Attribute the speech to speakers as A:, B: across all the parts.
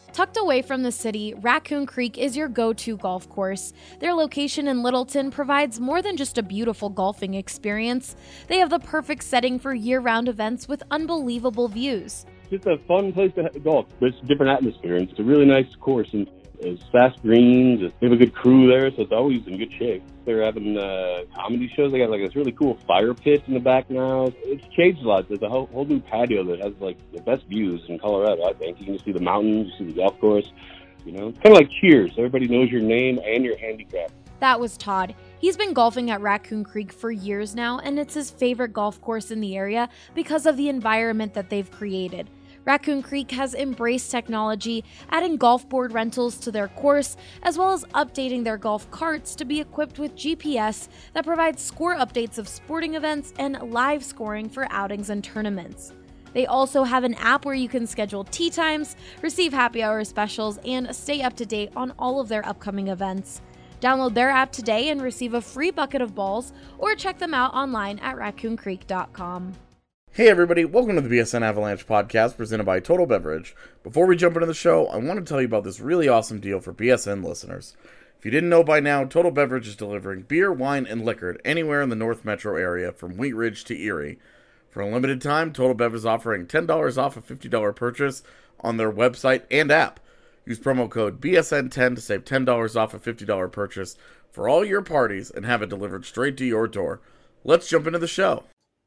A: Tucked away from the city, Raccoon Creek is your go-to golf course. Their location in Littleton provides more than just a beautiful golfing experience. They have the perfect setting for year-round events with unbelievable views.
B: It's just a fun place to golf. It's a different atmosphere, and it's a really nice course, and it's fast greens. They have a good crew there, so it's always in good shape. They're having comedy shows. They got like this really cool fire pit in the back now. It's changed a lot. There's a whole new patio that has like the best views in Colorado, I think. You can see the mountains, you see the golf course. You know, it's kind of like Cheers. Everybody knows your name and your handicap.
A: That was Todd. He's been golfing at Raccoon Creek for years now, and it's his favorite golf course in the area because of the environment that they've created. Raccoon Creek has embraced technology, adding golf board rentals to their course, as well as updating their golf carts to be equipped with GPS that provides score updates of sporting events and live scoring for outings and tournaments. They also have an app where you can schedule tee times, receive happy hour specials, and stay up to date on all of their upcoming events. Download their app today and receive a free bucket of balls, or check them out online at raccooncreek.com.
C: Hey everybody, welcome to the BSN Avalanche podcast presented by Total Beverage. Before we jump into the show, I want to tell you about this really awesome deal for BSN listeners. If you didn't know by now, Total Beverage is delivering beer, wine, and liquor anywhere in the North Metro area from Wheat Ridge to Erie. For a limited time, Total Beverage is offering $10 off a $50 purchase on their website and app. Use promo code BSN10 to save $10 off a $50 purchase for all your parties and have it delivered straight to your door. Let's jump into the show.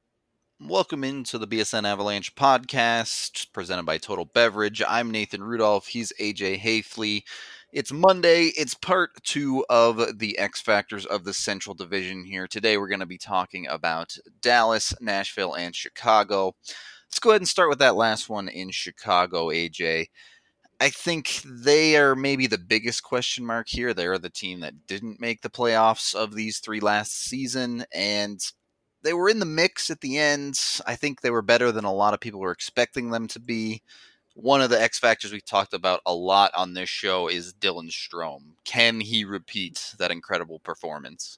D: Welcome into the BSN Avalanche podcast presented by Total Beverage. I'm Nathan Rudolph. He's AJ Haefele. It's Monday. It's part 2 of the X Factors of the Central Division here. Today we're going to be talking about Dallas, Nashville, and Chicago. Let's go ahead and start with that last one in Chicago, AJ. I think they are maybe the biggest question mark here. They're the team that didn't make the playoffs of these 3 last season, and they were in the mix at the end. I think they were better than a lot of people were expecting them to be. One of the X factors we talked about a lot on this show is Dylan Strome. Can he repeat that incredible performance?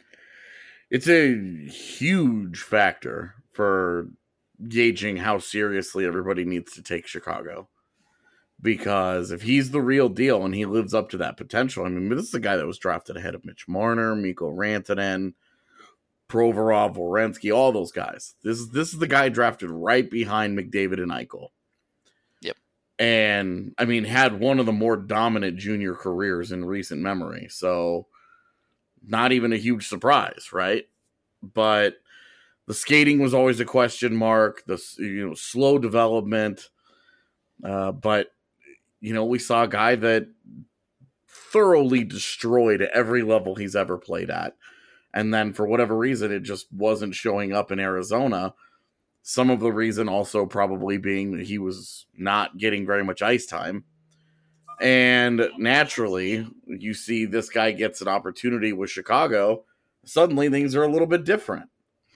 C: It's a huge factor for gauging how seriously everybody needs to take Chicago. Because if he's the real deal and he lives up to that potential, I mean, this is a guy that was drafted ahead of Mitch Marner, Mikko Rantanen, Provorov, Werenski, all those guys. This is the guy drafted right behind McDavid and Eichel.
D: Yep.
C: And, I mean, had one of the more dominant junior careers in recent memory. So, not even a huge surprise, right? But the skating was always a question mark. The slow development. But, we saw a guy that thoroughly destroyed every level he's ever played at. And then for whatever reason, it just wasn't showing up in Arizona. Some of the reason also probably being that he was not getting very much ice time. And naturally, you see this guy gets an opportunity with Chicago. Suddenly, things are a little bit different.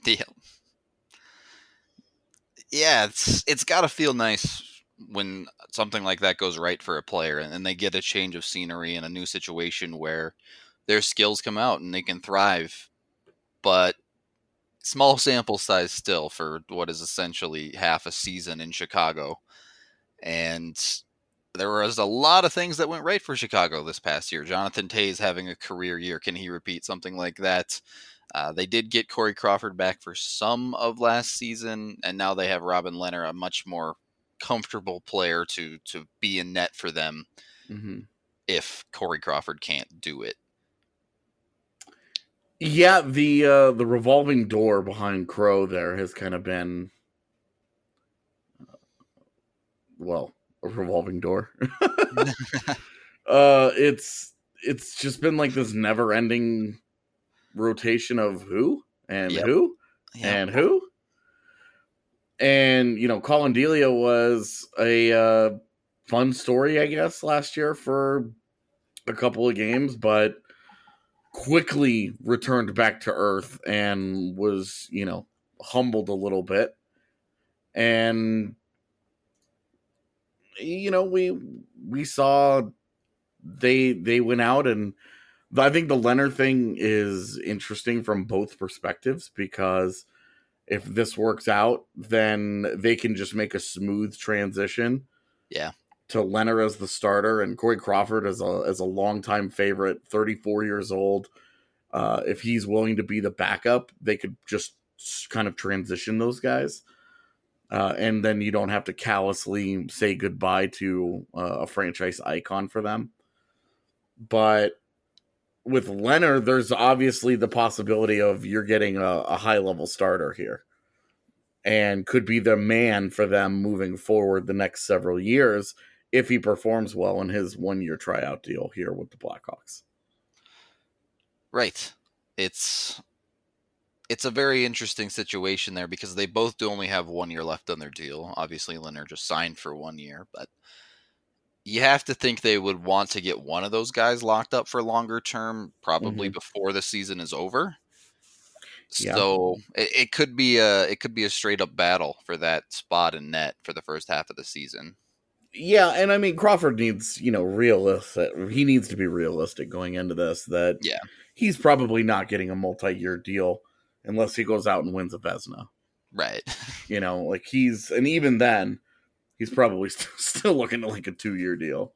D: Yeah, it's got to feel nice when something like that goes right for a player and they get a change of scenery and a new situation where their skills come out and they can thrive. But small sample size still for what is essentially half a season in Chicago. And there was a lot of things that went right for Chicago this past year. Jonathan Toews having a career year. Can he repeat something like that? They did get Corey Crawford back for some of last season, and now they have Robin Lehner, a much more comfortable player to be in net for them if Corey Crawford can't do it.
C: Yeah, the revolving door behind Crow there has kind of been, a revolving door. It's just been like this never-ending rotation of who and who and who. And, Colin Delia was a fun story, I guess, last year for a couple of games, but quickly returned back to earth and was, humbled a little bit. And, we saw they went out, and I think the Leonard thing is interesting from both perspectives, because if this works out, then they can just make a smooth transition.
D: Yeah.
C: to Leonard as the starter and Corey Crawford as a longtime favorite, 34 years old. If he's willing to be the backup, they could just kind of transition those guys. And then you don't have to callously say goodbye to a franchise icon for them. But with Leonard, there's obviously the possibility of you're getting a high-level starter here. And could be the man for them moving forward the next several years if he performs well in his 1-year tryout deal here with the Blackhawks.
D: Right. It's a very interesting situation there because they both do only have 1 year left on their deal. Obviously, Leonard just signed for 1 year, but you have to think they would want to get one of those guys locked up for longer term, probably before the season is over. Yeah. So it could be a straight up battle for that spot in net for the first half of the season.
C: Yeah, and I mean Crawford needs, realistic. He needs to be realistic going into this. That he's probably not getting a multi-year deal unless he goes out and wins a Vezina.
D: Right.
C: And even then, he's probably still looking at like a 2-year deal.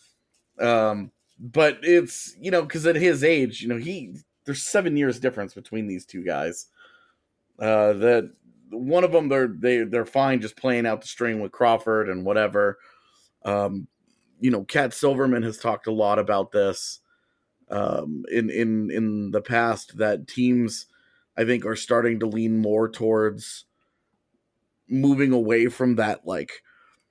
C: But it's because at his age, there's 7 years difference between these two guys. That one of them they're fine just playing out the string with Crawford and whatever. Cat Silverman has talked a lot about this in the past, that teams I think are starting to lean more towards moving away from that like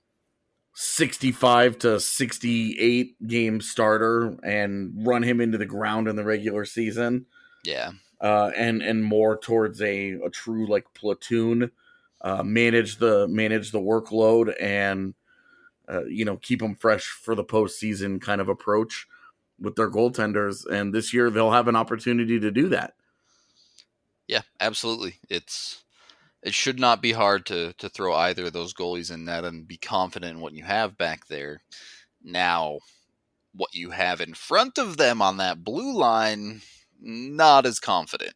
C: 65 to 68 game starter and run him into the ground in the regular season.
D: Yeah.
C: And more towards a true like platoon, manage the workload and, keep them fresh for the postseason kind of approach with their goaltenders. And this year they'll have an opportunity to do that.
D: Yeah, absolutely. It should not be hard to throw either of those goalies in net and be confident in what you have back there. Now, what you have in front of them on that blue line, not as confident.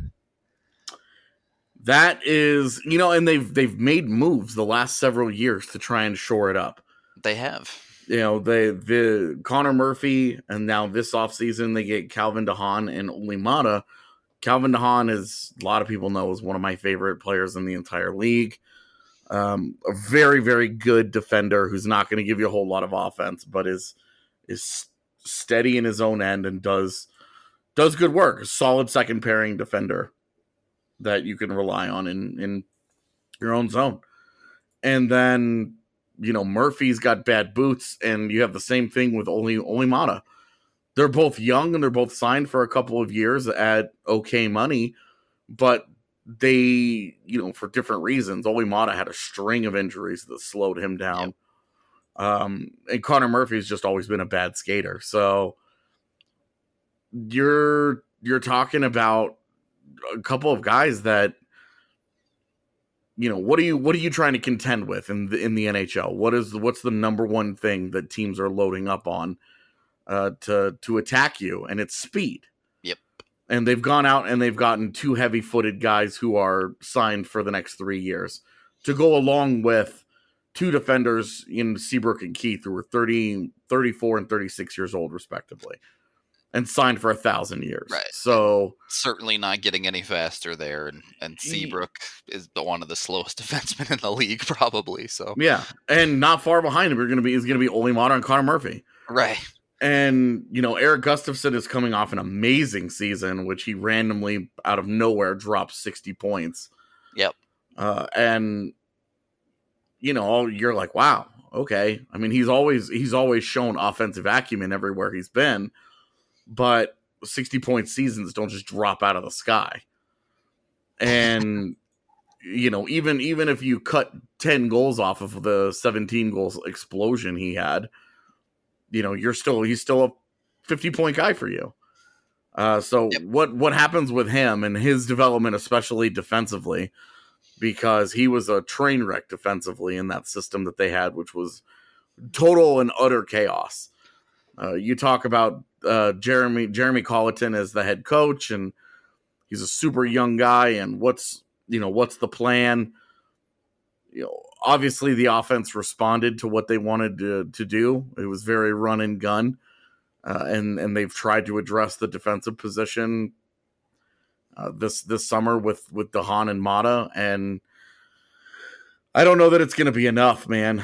C: That is, and they've made moves the last several years to try and shore it up.
D: They have.
C: The Connor Murphy, and now this offseason they get Calvin DeHaan and Olli Maatta. Calvin DeHaan, as a lot of people know, is one of my favorite players in the entire league. A very, very good defender who's not going to give you a whole lot of offense, but is steady in his own end and does good work. A solid second pairing defender that you can rely on in your own zone. And then, Murphy's got bad boots, and you have the same thing with Olli Maatta. They're both young and they're both signed for a couple of years at okay money, but they, for different reasons. Olli Maatta had a string of injuries that slowed him down. Yep. And Connor Murphy's just always been a bad skater. So you're talking about a couple of guys that, what are you trying to contend with in the NHL? What's the number one thing that teams are loading up on to attack you? And it's speed.
D: Yep.
C: And they've gone out and they've gotten 2 heavy-footed guys who are signed for the next 3 years to go along with 2 defenders in Seabrook and Keith, who were 30, 34, and 36 years old, respectively, and signed for 1,000 years.
D: Right.
C: So
D: certainly not getting any faster there, and Seabrook is one of the slowest defensemen in the league, probably. So
C: yeah, and not far behind him is going to be Olli Maatta and Connor Murphy.
D: Right.
C: And Eric Gustafsson is coming off an amazing season, which he randomly out of nowhere dropped 60 points.
D: Yep.
C: And you're like, wow, okay. I mean, he's always shown offensive acumen everywhere he's been. But 60-point seasons don't just drop out of the sky. And, even if you cut 10 goals off of the 17 goals explosion he had, he's still a 50-point guy for you. So yep. What happens with him and his development, especially defensively, because he was a train wreck defensively in that system that they had, which was total and utter chaos. You talk about Jeremy Colleton as the head coach, and he's a super young guy. And what's the plan? obviously the offense responded to what they wanted to do. It was very run and gun, and they've tried to address the defensive position this summer with DeHaan and Mata, and I don't know that it's going to be enough, man.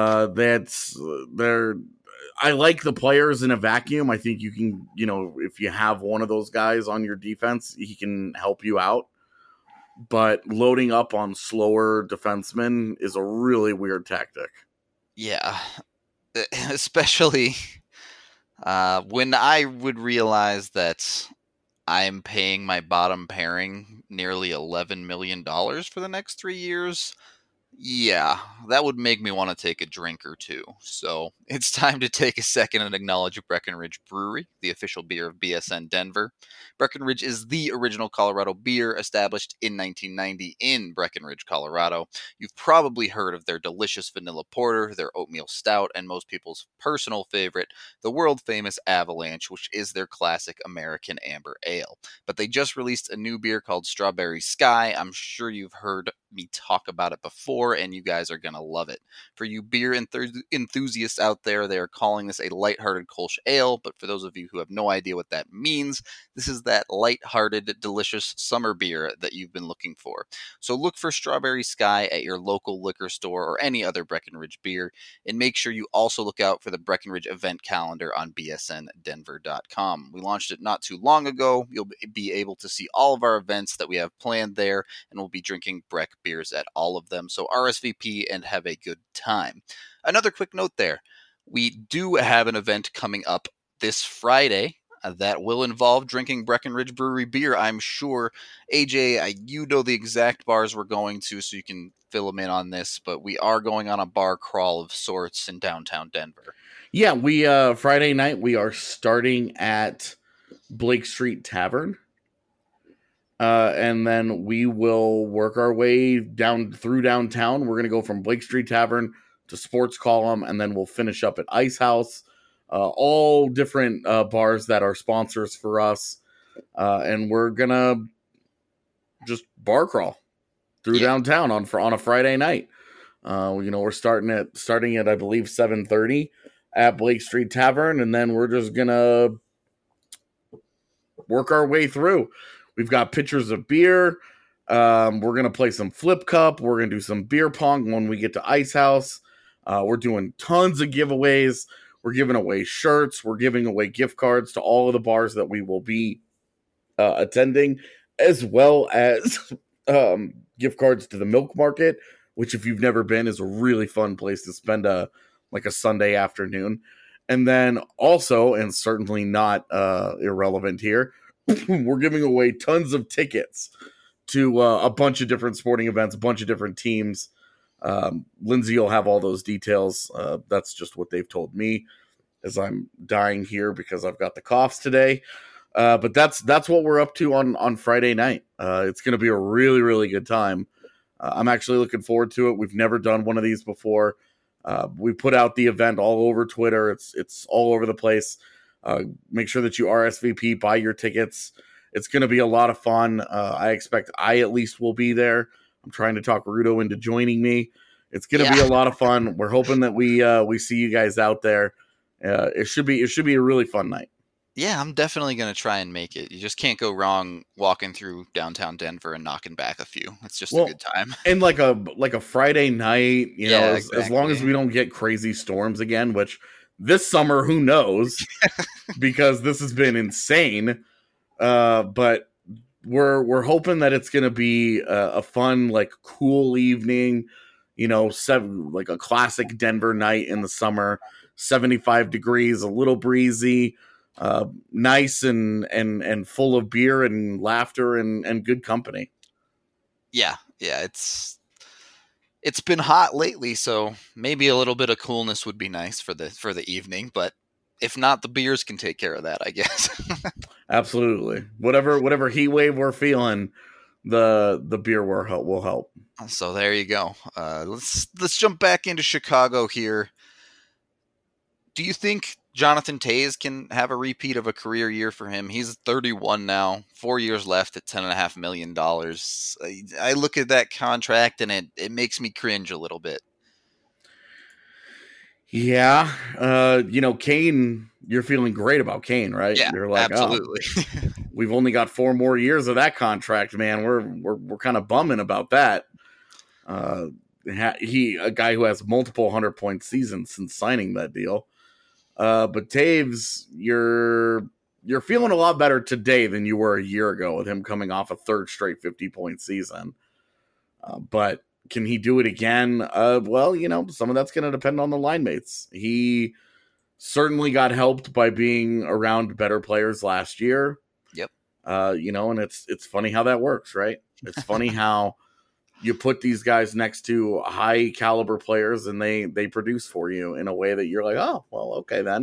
C: I like the players in a vacuum. I think you can, if you have one of those guys on your defense, he can help you out. But loading up on slower defensemen is a really weird tactic.
D: Yeah, especially when I would realize that I'm paying my bottom pairing nearly $11 million for the next 3 years. Yeah, that would make me want to take a drink or two. So it's time to take a second and acknowledge Breckenridge Brewery, the official beer of BSN Denver. Breckenridge is the original Colorado beer established in 1990 in Breckenridge, Colorado. You've probably heard of their delicious vanilla porter, their oatmeal stout, and most people's personal favorite, the world-famous Avalanche, which is their classic American amber ale. But they just released a new beer called Strawberry Sky. I'm sure you've heard me talk about it before, and you guys are going to love it. For you beer enthusiasts out there, they are calling this a lighthearted Kolsch ale, but for those of you who have no idea what that means, this is that lighthearted, delicious summer beer that you've been looking for. So look for Strawberry Sky at your local liquor store or any other Breckenridge beer, and make sure you also look out for the Breckenridge event calendar on bsndenver.com. We launched it not too long ago. You'll be able to see all of our events that we have planned there, and we'll be drinking Breck beers at all of them. So RSVP and have a good time. Another quick note there. We do have an event coming up this Friday that will involve drinking Breckenridge Brewery beer, I'm sure. AJ, you know the exact bars we're going to, so you can fill them in on this, but we are going on a bar crawl of sorts in downtown Denver.
C: Yeah, we Friday night, we are starting at Blake Street Tavern. And then we will work our way down through downtown. We're going to go from Blake Street Tavern to Sports Column, and then we'll finish up at Ice House. All different bars that are sponsors for us. And we're going to just bar crawl through downtown on a Friday night. We're starting at I believe 7:30 at Blake Street Tavern, and then we're just going to work our way through. We've got pitchers of beer. We're going to play some flip cup. We're going to do some beer pong when we get to Ice House. We're doing tons of giveaways. We're giving away shirts. We're giving away gift cards to all of the bars that we will be attending, as well as gift cards to the Milk Market, which if you've never been is a really fun place to spend a Sunday afternoon. And then also, and certainly not irrelevant here, we're giving away tons of tickets to a bunch of different sporting events, a bunch of different teams. Lindsay will have all those details. That's just what they've told me as I'm dying here because I've got the coughs today. But that's what we're up to on Friday night. It's going to be a really, really good time. I'm actually looking forward to it. We've never done one of these before. We put out the event all over Twitter. It's all over the place. Make sure that you RSVP, buy your tickets. It's going to be a lot of fun. I expect I at least will be there. I'm trying to talk Rudo into joining me. It's going to be a lot of fun. We're hoping that we see you guys out there. It should be a really fun night.
D: Yeah, I'm definitely going to try and make it. You just can't go wrong walking through downtown Denver and knocking back a few. It's just a good time.
C: And like a Friday night,
D: exactly.
C: As long as we don't get crazy storms again, which this summer, who knows, because this has been insane. But we're hoping that it's going to be a fun, cool evening, like a classic Denver night in the summer, 75 degrees, a little breezy, nice and full of beer and laughter and good company.
D: Yeah. It's been hot lately, so maybe a little bit of coolness would be nice for the evening, but if not, the beers can take care of that, I guess.
C: Absolutely. Whatever heat wave we're feeling, the beer will help.
D: So there you go. Let's jump back into Chicago here. Do you think Jonathan Toews can have a repeat of a career year for him? He's 31 now, 4 years left at $10.5 million. I look at that contract and it makes me cringe a little bit.
C: Yeah. Kane, you're feeling great about Kane, right?
D: Yeah,
C: You're like,
D: absolutely.
C: oh, we've only got 4 more years of that contract, man. We're kind of bumming about that. A guy who has multiple 100-point seasons since signing that deal. But Taves, you're feeling a lot better today than you were a year ago with him coming off a 3rd straight 50-point season. But can he do it again? Well, some of that's going to depend on the line mates. He certainly got helped by being around better players last year.
D: Yep.
C: And it's funny how that works, right? It's funny how you put these guys next to high caliber players and they produce for you in a way that you're like, oh, well, okay then.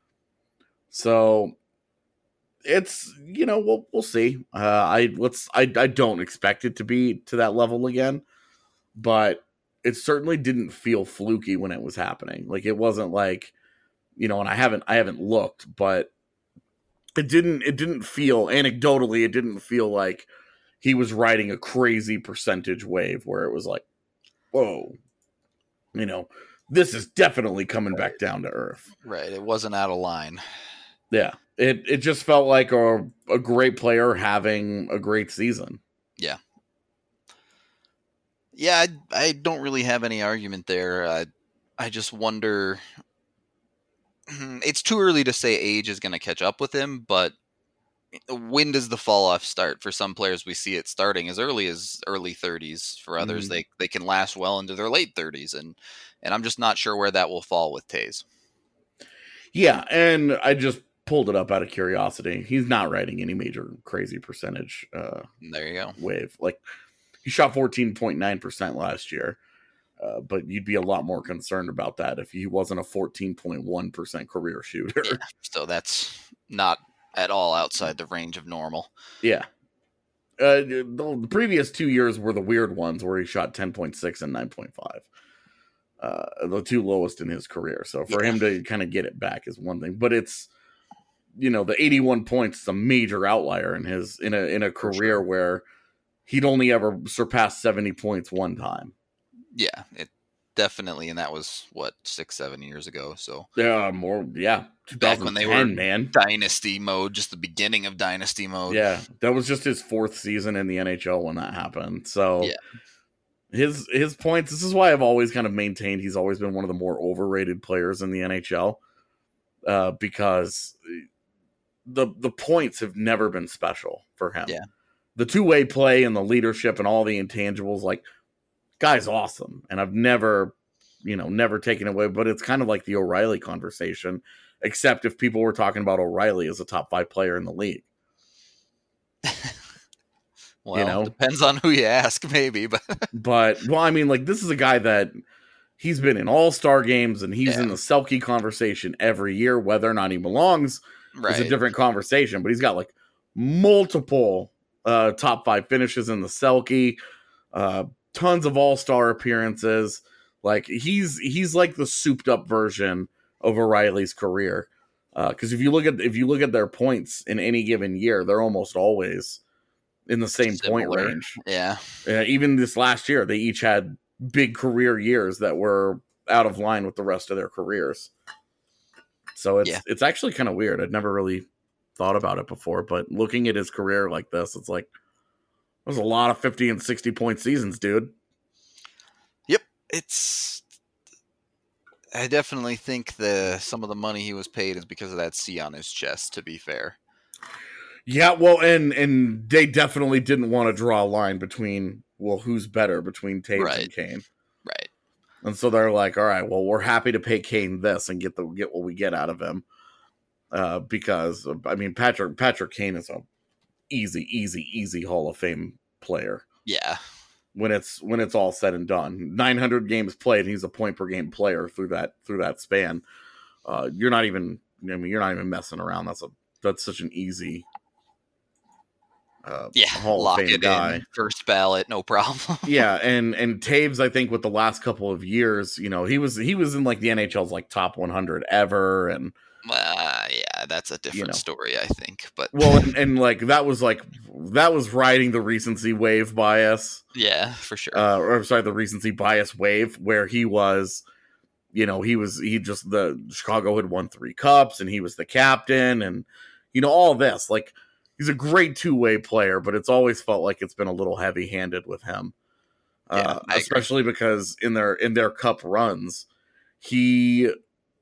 C: So it's, we'll see. I don't expect it to be to that level again, but it certainly didn't feel fluky when it was happening. Like it wasn't like, and I haven't looked, but it didn't feel anecdotally, it didn't feel like he was riding a crazy percentage wave where it was like, whoa, this is definitely coming back down to earth.
D: Right. It wasn't out of line.
C: Yeah. It just felt like a great player having a great season.
D: Yeah. Yeah, I don't really have any argument there. I just wonder. It's too early to say age is going to catch up with him, but when does the fall off start? For some players, we see it starting as early 30s. For others, they can last well into their late 30s, and I'm just not sure where that will fall with Taves.
C: Yeah, and I just pulled it up out of curiosity. He's not riding any major crazy percentage.
D: There you go.
C: Wave. Like he shot 14.9% last year, but you'd be a lot more concerned about that if he wasn't a 14.1% career shooter.
D: Yeah, so that's not at all outside the range of normal.
C: Yeah. The previous 2 years were the weird ones where he shot 10.6 and 9.5. The 2 lowest in his career. So for him to kind of get it back is one thing, but it's, the 81 points is a major outlier in a career where he'd only ever surpassed 70 points one time.
D: Yeah, it definitely, and that was 6-7 years ago. So
C: more, yeah.
D: Back when they were
C: man.
D: Dynasty mode, just the beginning of Dynasty mode.
C: Yeah, that was just his 4th season in the NHL when that happened. So his points. This is why I've always kind of maintained he's always been one of the more overrated players in the NHL, because the points have never been special for him.
D: Yeah,
C: the 2-way play and the leadership and all the intangibles, like, guy's awesome, and I've never taken away. But it's kind of like the O'Reilly conversation, except if people were talking about O'Reilly as a top 5 player in the league.
D: Well, depends on who you ask, maybe.
C: But I mean, like, this is a guy that he's been in all-star games, and he's in the Selke conversation every year. Whether or not he belongs is a different conversation. But he's got like multiple top 5 finishes in the Selke, tons of all-star appearances. Like he's like the souped-up version of O'Reilly's career. Because if you look at their points in any given year, they're almost always in the same point range.
D: Yeah.
C: Even this last year, they each had big career years that were out of line with the rest of their careers. So it's actually kind of weird. I'd never really thought about it before, but looking at his career like this, it's like there's a lot of 50 and 60 point seasons, dude.
D: Yep. I definitely think some of the money he was paid is because of that C on his chest, to be fair.
C: Yeah, well, and they definitely didn't want to draw a line between, who's better between Taves and Kane.
D: Right.
C: And so they're like, all right, well, we're happy to pay Kane this and get what we get out of him. Because, I mean, Patrick Kane is a easy Hall of Fame player.
D: Yeah.
C: When it's all said and done, 900 games played, he's a point per game player through that span. You're not even messing around. That's such an easy Hall of Fame guy.
D: First ballot, no problem.
C: Yeah, and Taves, I think with the last couple of years, he was in like the NHL's like top 100 ever, and
D: yeah, that's a different story, I think. But
C: and like that was riding the recency wave bias.
D: Yeah, for sure.
C: The recency bias wave, where he was the Chicago had won 3 cups and he was the captain and, all this. Like, he's a great two-way player, but it's always felt like it's been a little heavy-handed with him. Especially because in their cup runs, he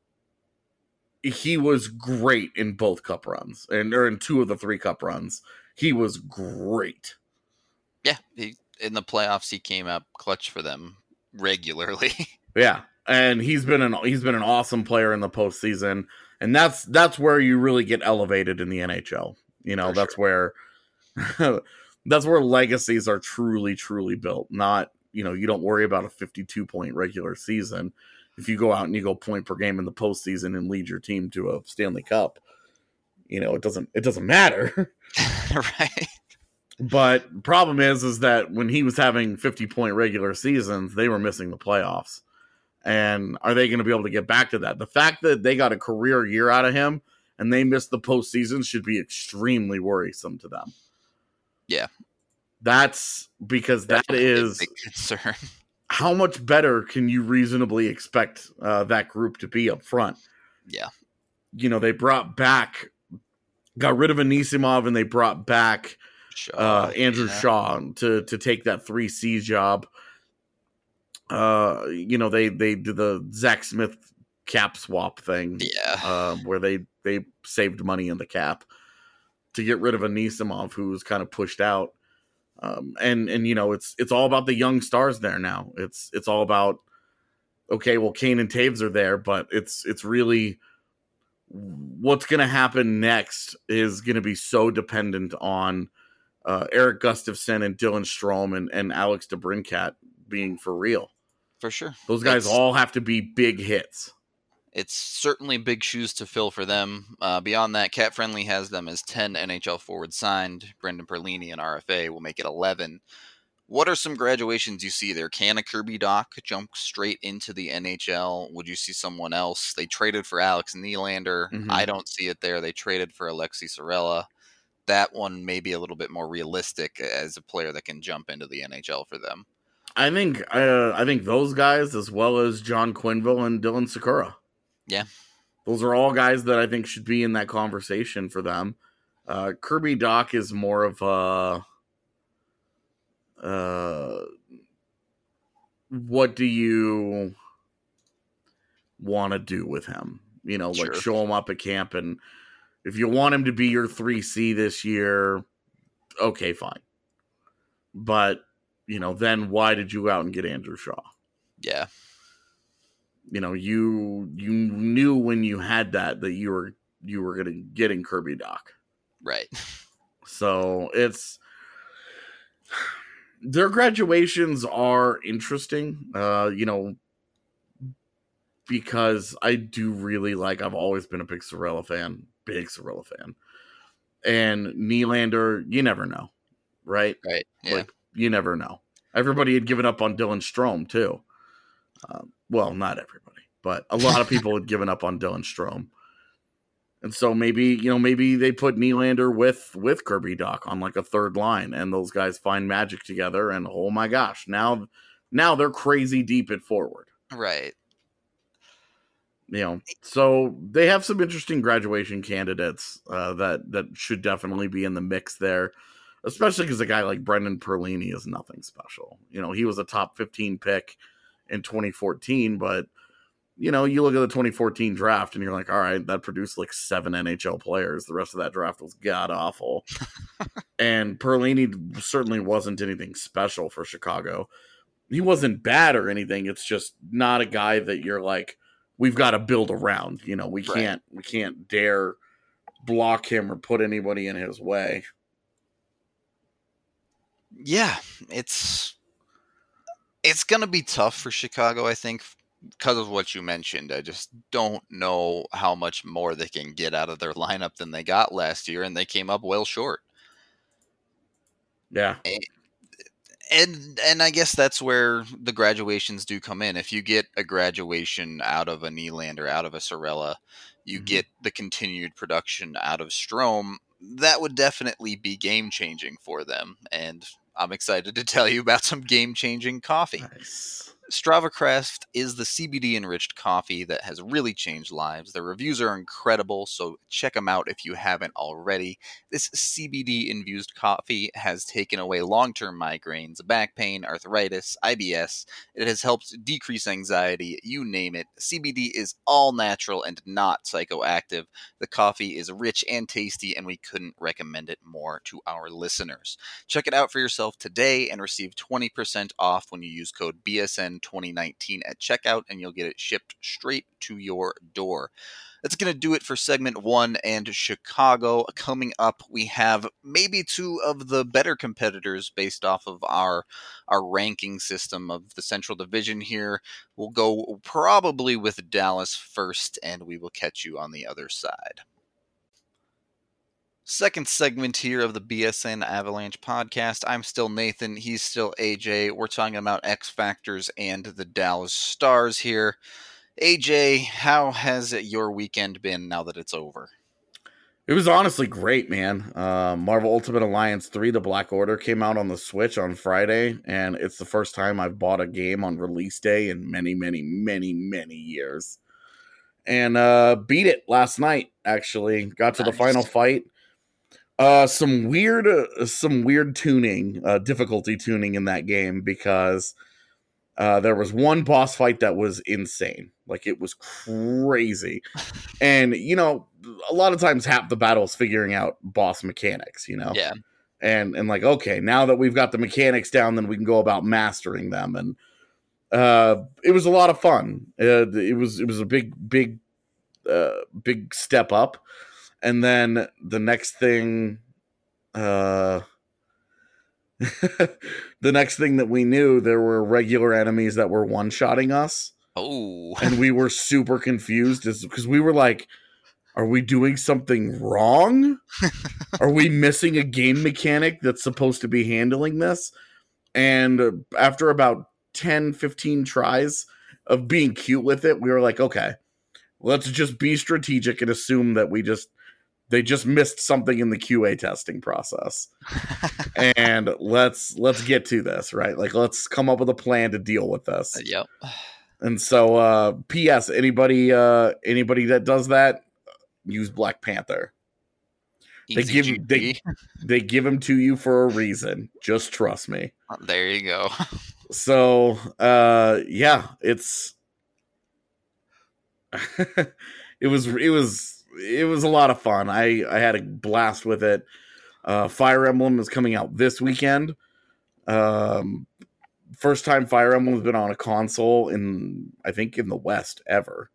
C: was great in both cup runs, or in 2 of the 3 cup runs. He was great.
D: Yeah, in the playoffs, he came up clutch for them regularly.
C: Yeah, and he's been an awesome player in the postseason, and that's where you really get elevated in the NHL. That's
D: sure.
C: where that's where legacies are truly, truly built. Not, you don't worry about a 52-point regular season. If you go out and you go point per game in the postseason and lead your team to a Stanley Cup, it doesn't matter.
D: Right.
C: But problem is that when he was having 50-point regular seasons, they were missing the playoffs. And are they going to be able to get back to that? The fact that they got a career year out of him and they missed the postseason should be extremely worrisome to them.
D: Yeah.
C: That's because
D: Definitely
C: that is
D: a big concern.
C: How much better can you reasonably expect that group to be up front?
D: Yeah.
C: They got rid of Anisimov and they brought back Andrew Shaw to take that 3C job. They did the Zach Smith cap swap thing.
D: Yeah.
C: Where they saved money in the cap to get rid of Anisimov, who was kind of pushed out. And it's all about the young stars there now. It's all about, okay, well, Kane and Taves are there, but it's really what's going to happen next is going to be so dependent on Eric Gustafsson and Dylan Strome and Alex DeBrincat being for real.
D: For sure.
C: Those guys all have to be big hits.
D: It's certainly big shoes to fill for them. Beyond that, Cap Friendly has them as 10 NHL forwards signed. Brendan Perlini and RFA will make it 11. What are some graduations you see there? Can a Kirby Dach jump straight into the NHL? Would you see someone else? They traded for Alex Nylander.
C: Mm-hmm.
D: I don't see it there. They traded for Alexi Sorella. That one may be a little bit more realistic as a player that can jump into the NHL for them.
C: I think those guys, as well as John Quenneville and Dylan Sikura.
D: Yeah.
C: Those are all guys that I think should be in that conversation for them. Kirby Dach is more of what do you want to do with him?
D: Sure.
C: Show him up at camp, and if you want him to be your 3C this year, okay, fine. But, then why did you go out and get Andrew Shaw?
D: Yeah.
C: You knew when you had that you were going to get in Kirby Dach.
D: Right.
C: So their graduations are interesting, because I do really I've always been a big Sorella fan. And Nylander, you never know, right?
D: Right, yeah.
C: You never know. Everybody had given up on Dylan Strome, too. Well, not everybody, but a lot of people had given up on Dylan Strome. And so maybe they put Nylander with Kirby Dach on a third line, and those guys find magic together, and oh my gosh, now they're crazy deep at forward.
D: Right.
C: So they have some interesting graduation candidates that should definitely be in the mix there, especially because a guy like Brendan Perlini is nothing special. He was a top 15 pick in 2014, but you look at the 2014 draft and you're like, all right, that produced 7 NHL players. The rest of that draft was god awful. And Perlini certainly wasn't anything special for Chicago. He wasn't bad or anything. It's just not a guy that you're like, we've got to build around. We can't dare block him or put anybody in his way.
D: Yeah, it's going to be tough for Chicago, I think, because of what you mentioned. I just don't know how much more they can get out of their lineup than they got last year, and they came up well short.
C: Yeah.
D: And I guess that's where the graduations do come in. If you get a graduation out of a Nylander, out of a Sorella, you get the continued production out of Strome, that would definitely be game-changing for them. And I'm excited to tell you about some game-changing coffee.
C: Nice.
D: StravaCraft is the CBD-enriched coffee that has really changed lives. Their reviews are incredible, so check them out if you haven't already. This CBD-infused coffee has taken away long-term migraines, back pain, arthritis, IBS. It has helped decrease anxiety, you name it. CBD is all natural and not psychoactive. The coffee is rich and tasty, and we couldn't recommend it more to our listeners. Check it out for yourself today and receive 20% off when you use code BSN2019 at checkout, and you'll get it shipped straight to your door. That's going to do it for segment 1 and Chicago. Coming up, we have maybe 2 of the better competitors based off of our ranking system of the Central Division here. We'll go probably with Dallas first, and we will catch you on the other side. Second segment here of the BSN Avalanche podcast. I'm still Nathan. He's still AJ. We're talking about X Factors and the Dallas Stars here. AJ, how has your weekend been now that it's over?
C: It was honestly great, man. Marvel Ultimate Alliance 3, The Black Order, came out on the Switch on Friday, and it's the first time I've bought a game on release day in many, many, many, many years. And beat it last night, actually. Got to the final fight. Some weird tuning, difficulty tuning in that game, because there was one boss fight that was insane. Like, it was crazy. And, you know, a lot of times half the battle is figuring out boss mechanics, you know?
D: Yeah.
C: And like, okay, now that we've got the mechanics down, then we can go about mastering them. And it was a lot of fun. It was a big step up. And then the next thing, the next thing that we knew, there were regular enemies that were one-shotting us.
D: Oh.
C: And we were super confused because we were like, are we doing something wrong? Are we missing a game mechanic that's supposed to be handling this? And after about 10, 15 tries of being cute with it, we were like, okay, let's just be strategic and assume that they just missed something in the QA testing process. And let's get to this, right? Like, let's come up with a plan to deal with this.
D: Yep.
C: And so, P.S. Anybody that does that, use Black Panther. They give him to you for a reason. Just trust me.
D: There you go.
C: So, yeah, it's it was a lot of fun. I had a blast with it. Fire Emblem is coming out this weekend. First time Fire Emblem has been on a console in the West ever.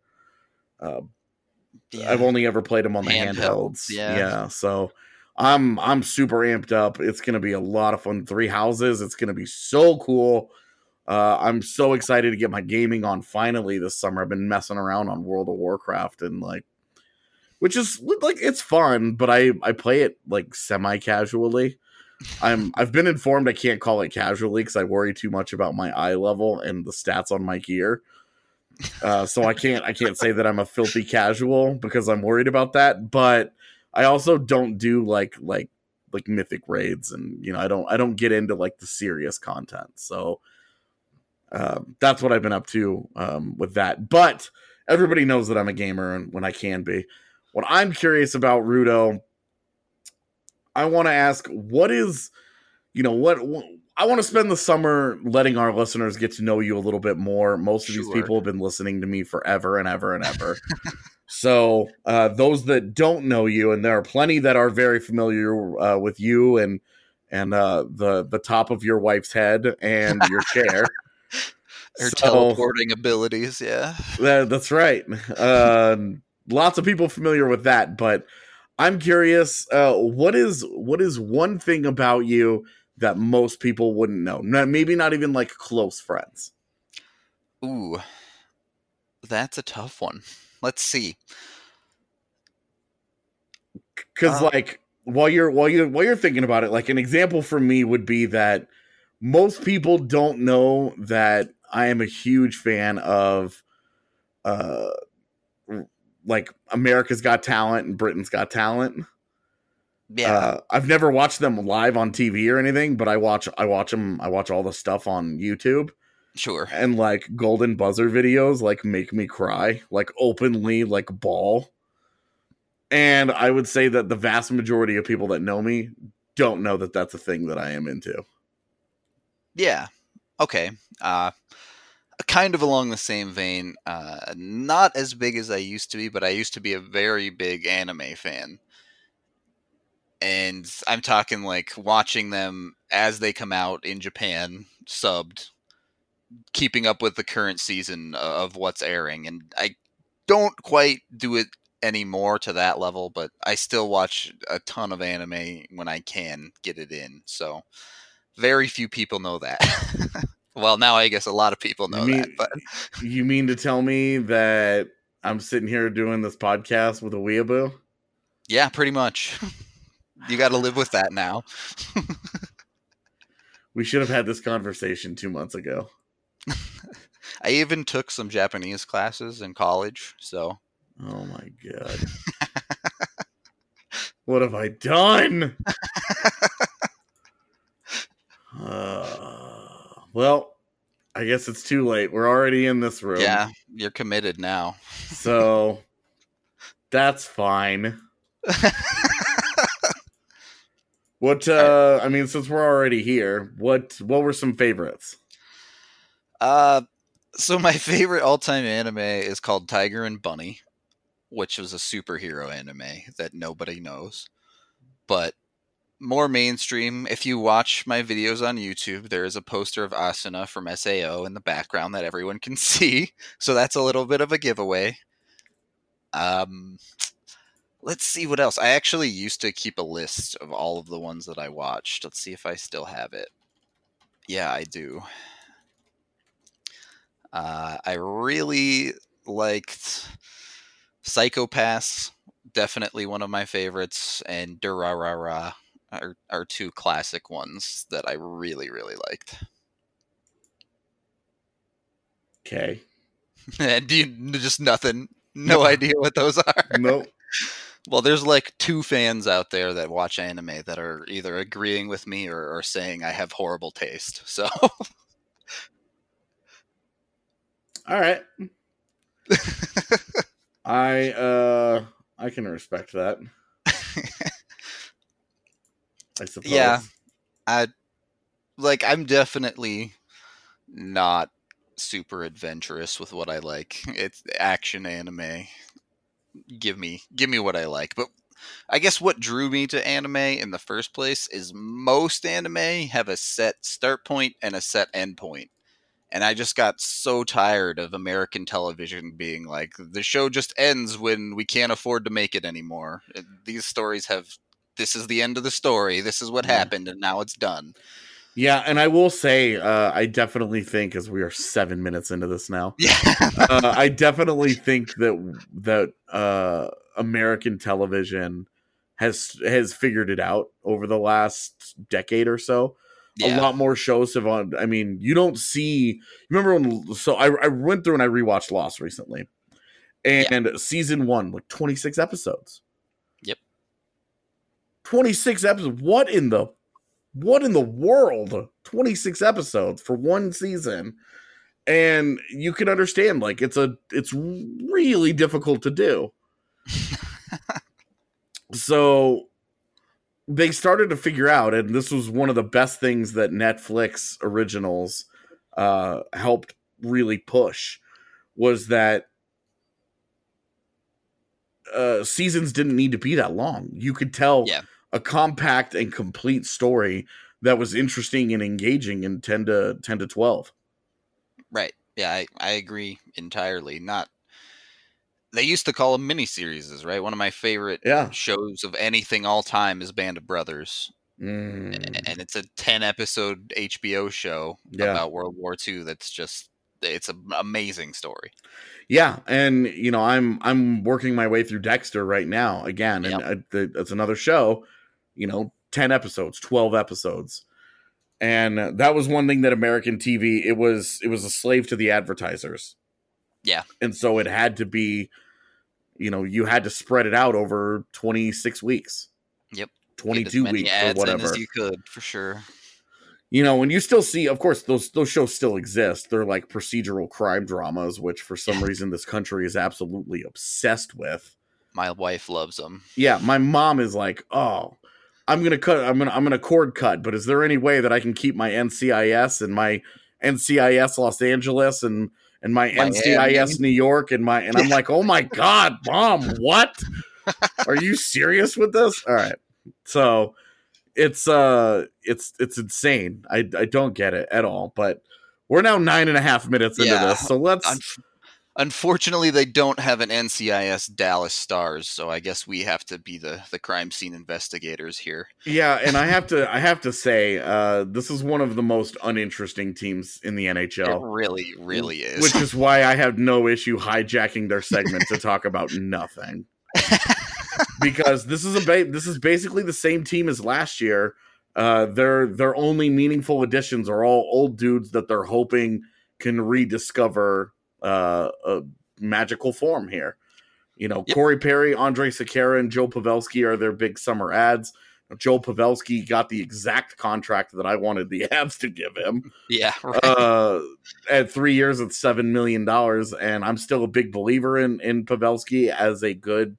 C: I've only ever played them on the handhelds. Yeah. So I'm super amped up. It's going to be a lot of fun. 3 houses. It's going to be so cool. I'm so excited to get my gaming on finally this summer. I've been messing around on World of Warcraft and which is like, it's fun, but I play it like semi-casually. I've been informed I can't call it casually because I worry too much about my eye level and the stats on my gear. So I can't say that I'm a filthy casual because I'm worried about that. But I also don't do like mythic raids, and I don't get into like the serious content. So that's what I've been up to with that. But everybody knows that I'm a gamer and when I can be. What I'm curious about, Rudo, I want to ask, what I want to spend the summer letting our listeners get to know you a little bit more. Most of these people have been listening to me forever and ever and ever. So those that don't know you, and there are plenty that are very familiar with you and the top of your wife's head and your chair.
D: Her teleporting abilities, yeah.
C: That's right. Lots of people familiar with that, but I'm curious, what is one thing about you that most people wouldn't know? Maybe not even like close friends.
D: Ooh, that's a tough one. Let's see.
C: Because while you're thinking about it, like an example for me would be that most people don't know that I am a huge fan of like America's Got Talent and Britain's Got Talent.
D: Yeah.
C: I've never watched them live on TV or anything, but I watch all the stuff on YouTube.
D: Sure.
C: And like golden buzzer videos like make me cry, like openly like bawl. And I would say that the vast majority of people that know me don't know that that's a thing that I am into.
D: Yeah. Okay. Kind of along the same vein, not as big as I used to be, but I used to be a very big anime fan. And I'm talking like watching them as they come out in Japan, subbed, keeping up with the current season of what's airing. And I don't quite do it anymore to that level, but I still watch a ton of anime when I can get it in. So very few people know that. Well, now I guess a lot of people know that. But
C: you mean to tell me that I'm sitting here doing this podcast with a weeaboo?
D: Yeah, pretty much. You got to live with that now.
C: We should have had this conversation 2 months ago.
D: I even took some Japanese classes in college, so.
C: Oh my god. What have I done? Well, I guess it's too late. We're already in this room.
D: Yeah, you're committed now.
C: So that's fine. What I mean, since we're already here, what were some favorites?
D: So my favorite all-time anime is called Tiger and Bunny, which was a superhero anime that nobody knows. But more mainstream, if you watch my videos on YouTube, there is a poster of Asuna from SAO in the background that everyone can see. So that's a little bit of a giveaway. Let's see what else. I actually used to keep a list of all of the ones that I watched. Let's see if I still have it. Yeah, I do. I really liked Psycho-Pass, definitely one of my favorites, and Durarara are two classic ones that I really, really liked.
C: Okay.
D: And do you just nothing? No idea what those are?
C: Nope.
D: Well, there's like 2 fans out there that watch anime that are either agreeing with me or saying I have horrible taste. So,
C: all right. I can respect that. I suppose.
D: Yeah, I'm definitely not super adventurous with what I like. It's action anime. Give me what I like. But I guess what drew me to anime in the first place is most anime have a set start point and a set end point. And I just got so tired of American television being like, the show just ends when we can't afford to make it anymore. These stories have, this is the end of the story. This is what happened, and now it's done.
C: Yeah, and I will say, I definitely think, as we are 7 minutes into this now, I definitely think that American television has figured it out over the last decade or so. Yeah. A lot more shows have on. I mean, you don't see. Remember when? So I went through and I rewatched Lost recently, and season 1, like 26 episodes.
D: Yep.
C: 26 episodes. What in the world? 26 episodes for one season, and you can understand. Like it's really difficult to do. So they started to figure out, and this was one of the best things that Netflix originals helped really push, was that seasons didn't need to be that long. You could tell a compact and complete story that was interesting and engaging in 10 to 12.
D: Right. Yeah, I agree entirely. They used to call them miniseries, right? One of my favorite shows of anything all time is Band of Brothers. And it's a 10-episode HBO show about World War II that's just, it's an amazing story.
C: Yeah, and you know, I'm working my way through Dexter right now again, and it's another show, you know, 10 episodes, 12 episodes. And that was one thing that American TV, it was a slave to the advertisers.
D: Yeah.
C: And so it had to be, you know, you had to spread it out over 26 weeks.
D: Yep.
C: 22 weeks or whatever.
D: As you could, for sure.
C: And you still see, of course, those shows still exist. They're like procedural crime dramas, which for some reason this country is absolutely obsessed with.
D: My wife loves them.
C: Yeah, my mom is like, oh, I'm gonna cord cut, but is there any way that I can keep my NCIS and my NCIS Los Angeles and my
D: Miami.
C: NCIS New York and I'm like, oh my God, Mom, what? Are you serious with this? All right. So it's insane. I don't get it at all, but we're now 9.5 minutes into this. So let's
D: unfortunately, they don't have an NCIS Dallas Stars, so I guess we have to be the crime scene investigators here.
C: Yeah, and I have to say, this is one of the most uninteresting teams in the NHL.
D: It really, really is.
C: Which is why I have no issue hijacking their segment to talk about nothing. Because this is basically the same team as last year. Their only meaningful additions are all old dudes that they're hoping can rediscover a magical form here. Yep. Corey Perry, Andrej Sekera, and Joe Pavelski are their big summer ads. Joe Pavelski got the exact contract that I wanted the Avs to give him.
D: Yeah, right.
C: At 3 years at $7 million, and I'm still a big believer in Pavelski as a good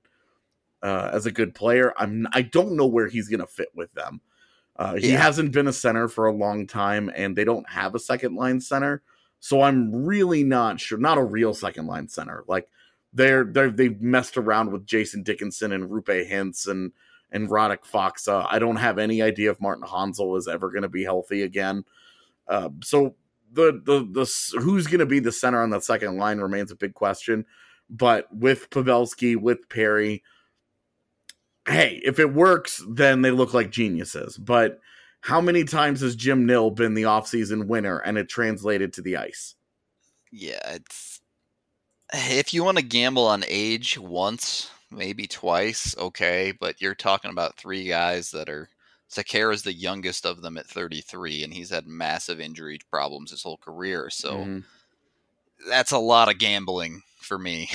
C: player. I don't know where he's going to fit with them. He hasn't been a center for a long time, and they don't have a second line center. So I'm really not sure. Not a real second line center. Like they've messed around with Jason Dickinson and Rupe Hintz and Radek Faksa. I don't have any idea if Martin Hansel is ever going to be healthy again. So the who's going to be the center on that second line remains a big question. But with Pavelski, with Perry, hey, if it works, then they look like geniuses. But how many times has Jim Nill been the offseason winner and it translated to the ice?
D: Yeah, if you want to gamble on age once, maybe twice, okay, but you're talking about three guys that are... Sekera's the youngest of them at 33, and he's had massive injury problems his whole career, so that's a lot of gambling for me.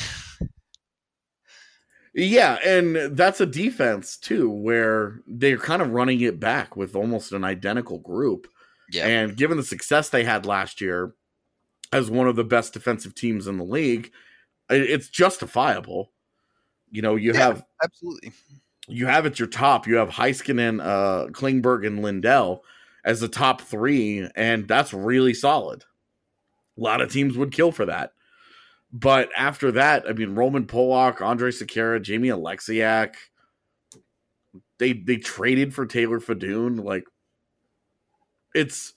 C: Yeah, and that's a defense, too, where they're kind of running it back with almost an identical group.
D: Yeah.
C: And given the success they had last year as one of the best defensive teams in the league, it's justifiable. You have...
D: Absolutely.
C: You have at your top, you have Heiskanen, Klingberg, and Lindell as the top three, and that's really solid. A lot of teams would kill for that. But after that, I mean, Roman Polak, Andrej Sekera, Jamie Alexiak, they traded for Taylor Fedun. Like, it's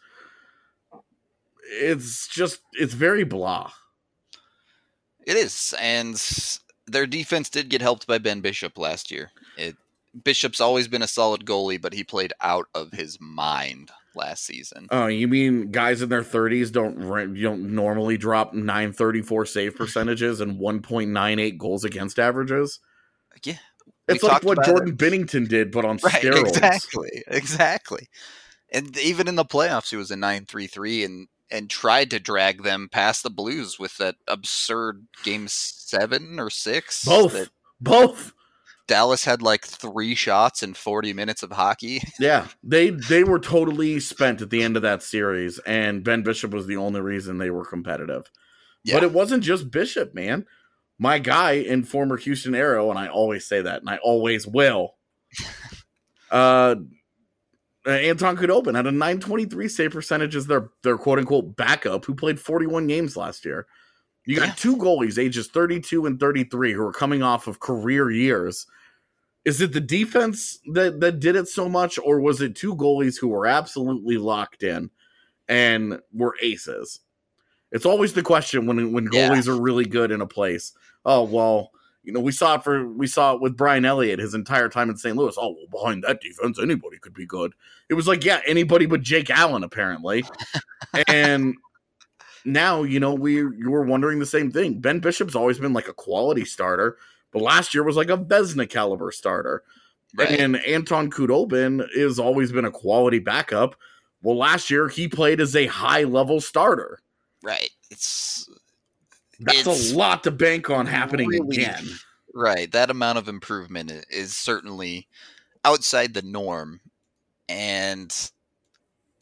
C: very blah.
D: It is, and their defense did get helped by Ben Bishop last year. Bishop's always been a solid goalie, but he played out of his mind last season.
C: Oh, you mean guys in their 30s don't normally drop .934 save percentages and 1.98 goals against averages?
D: Yeah.
C: It's like what Jordan Binnington did, but on steroids.
D: Exactly. And even in the playoffs, he was a .933 and tried to drag them past the Blues with that absurd game 7 or 6.
C: Both.
D: Dallas had like 3 shots in 40 minutes of hockey.
C: Yeah, they were totally spent at the end of that series, and Ben Bishop was the only reason they were competitive. Yeah. But it wasn't just Bishop, man. My guy in former Houston Aero, and I always say that, and I always will, Anton Khudobin had a .923 save percentage as their quote-unquote backup who played 41 games last year. You got 2 goalies, ages 32 and 33, who are coming off of career years. Is it the defense that did it so much, or was it 2 goalies who were absolutely locked in and were aces? It's always the question when goalies are really good in a place. Oh, well, we saw it with Brian Elliott his entire time in St. Louis. Oh, well, behind that defense, anybody could be good. It was like, anybody but Jake Allen, apparently. And now, you were wondering the same thing. Ben Bishop's always been like a quality starter, but last year was like a Vezina caliber starter. Right. And Anton Khudobin has always been a quality backup. Well, last year he played as a high level starter.
D: Right.
C: That's a lot to bank on happening again.
D: Right. That amount of improvement is certainly outside the norm. And